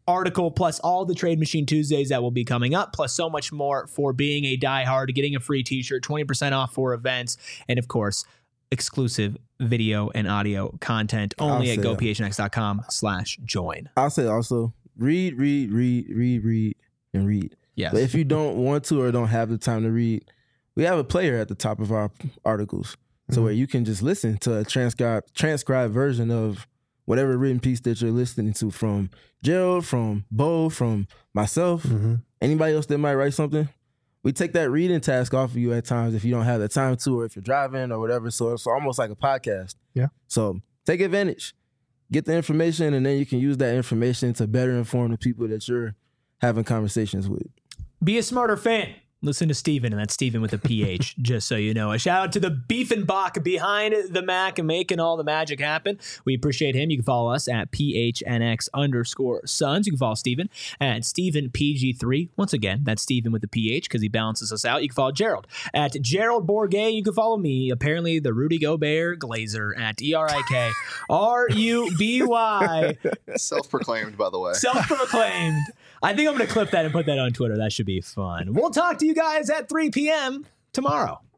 article, plus all the Trade Machine Tuesdays that will be coming up, plus so much more for being a diehard, getting a free t-shirt, twenty percent off for events, and of course, exclusive video and audio content only I'll at say go that. p h n x dot com slash join. I'll say also read, read, read, read, read, and read. Yes. But if you don't want to or don't have the time to read, we have a player at the top of our articles. So Mhm. where you can just listen to a transcribed transcribed version of whatever written piece that you're listening to from Gerald, from Bo, from myself, Mhm. anybody else that might write something. We take that reading task off of you at times if you don't have the time to, or if you're driving or whatever. So it's almost like a podcast. Yeah. So take advantage. Get the information, and then you can use that information to better inform the people that you're having conversations with. Be a smarter fan. Listen to Steven, and that's Steven with a P H, just so you know. A shout out to the Beefenbach behind the Mac and making all the magic happen. We appreciate him. You can follow us at P H N X underscore Sons. You can follow Steven at Steven P G three. Once again, that's Steven with the P H because he balances us out. You can follow Gerald at Gerald Bourget. You can follow me, apparently the Rudy Gobert Glazer at E R I K R U B Y. Self-proclaimed, by the way. Self-proclaimed. I think I'm going to clip that and put that on Twitter. That should be fun. We'll talk to you guys at three p.m. tomorrow.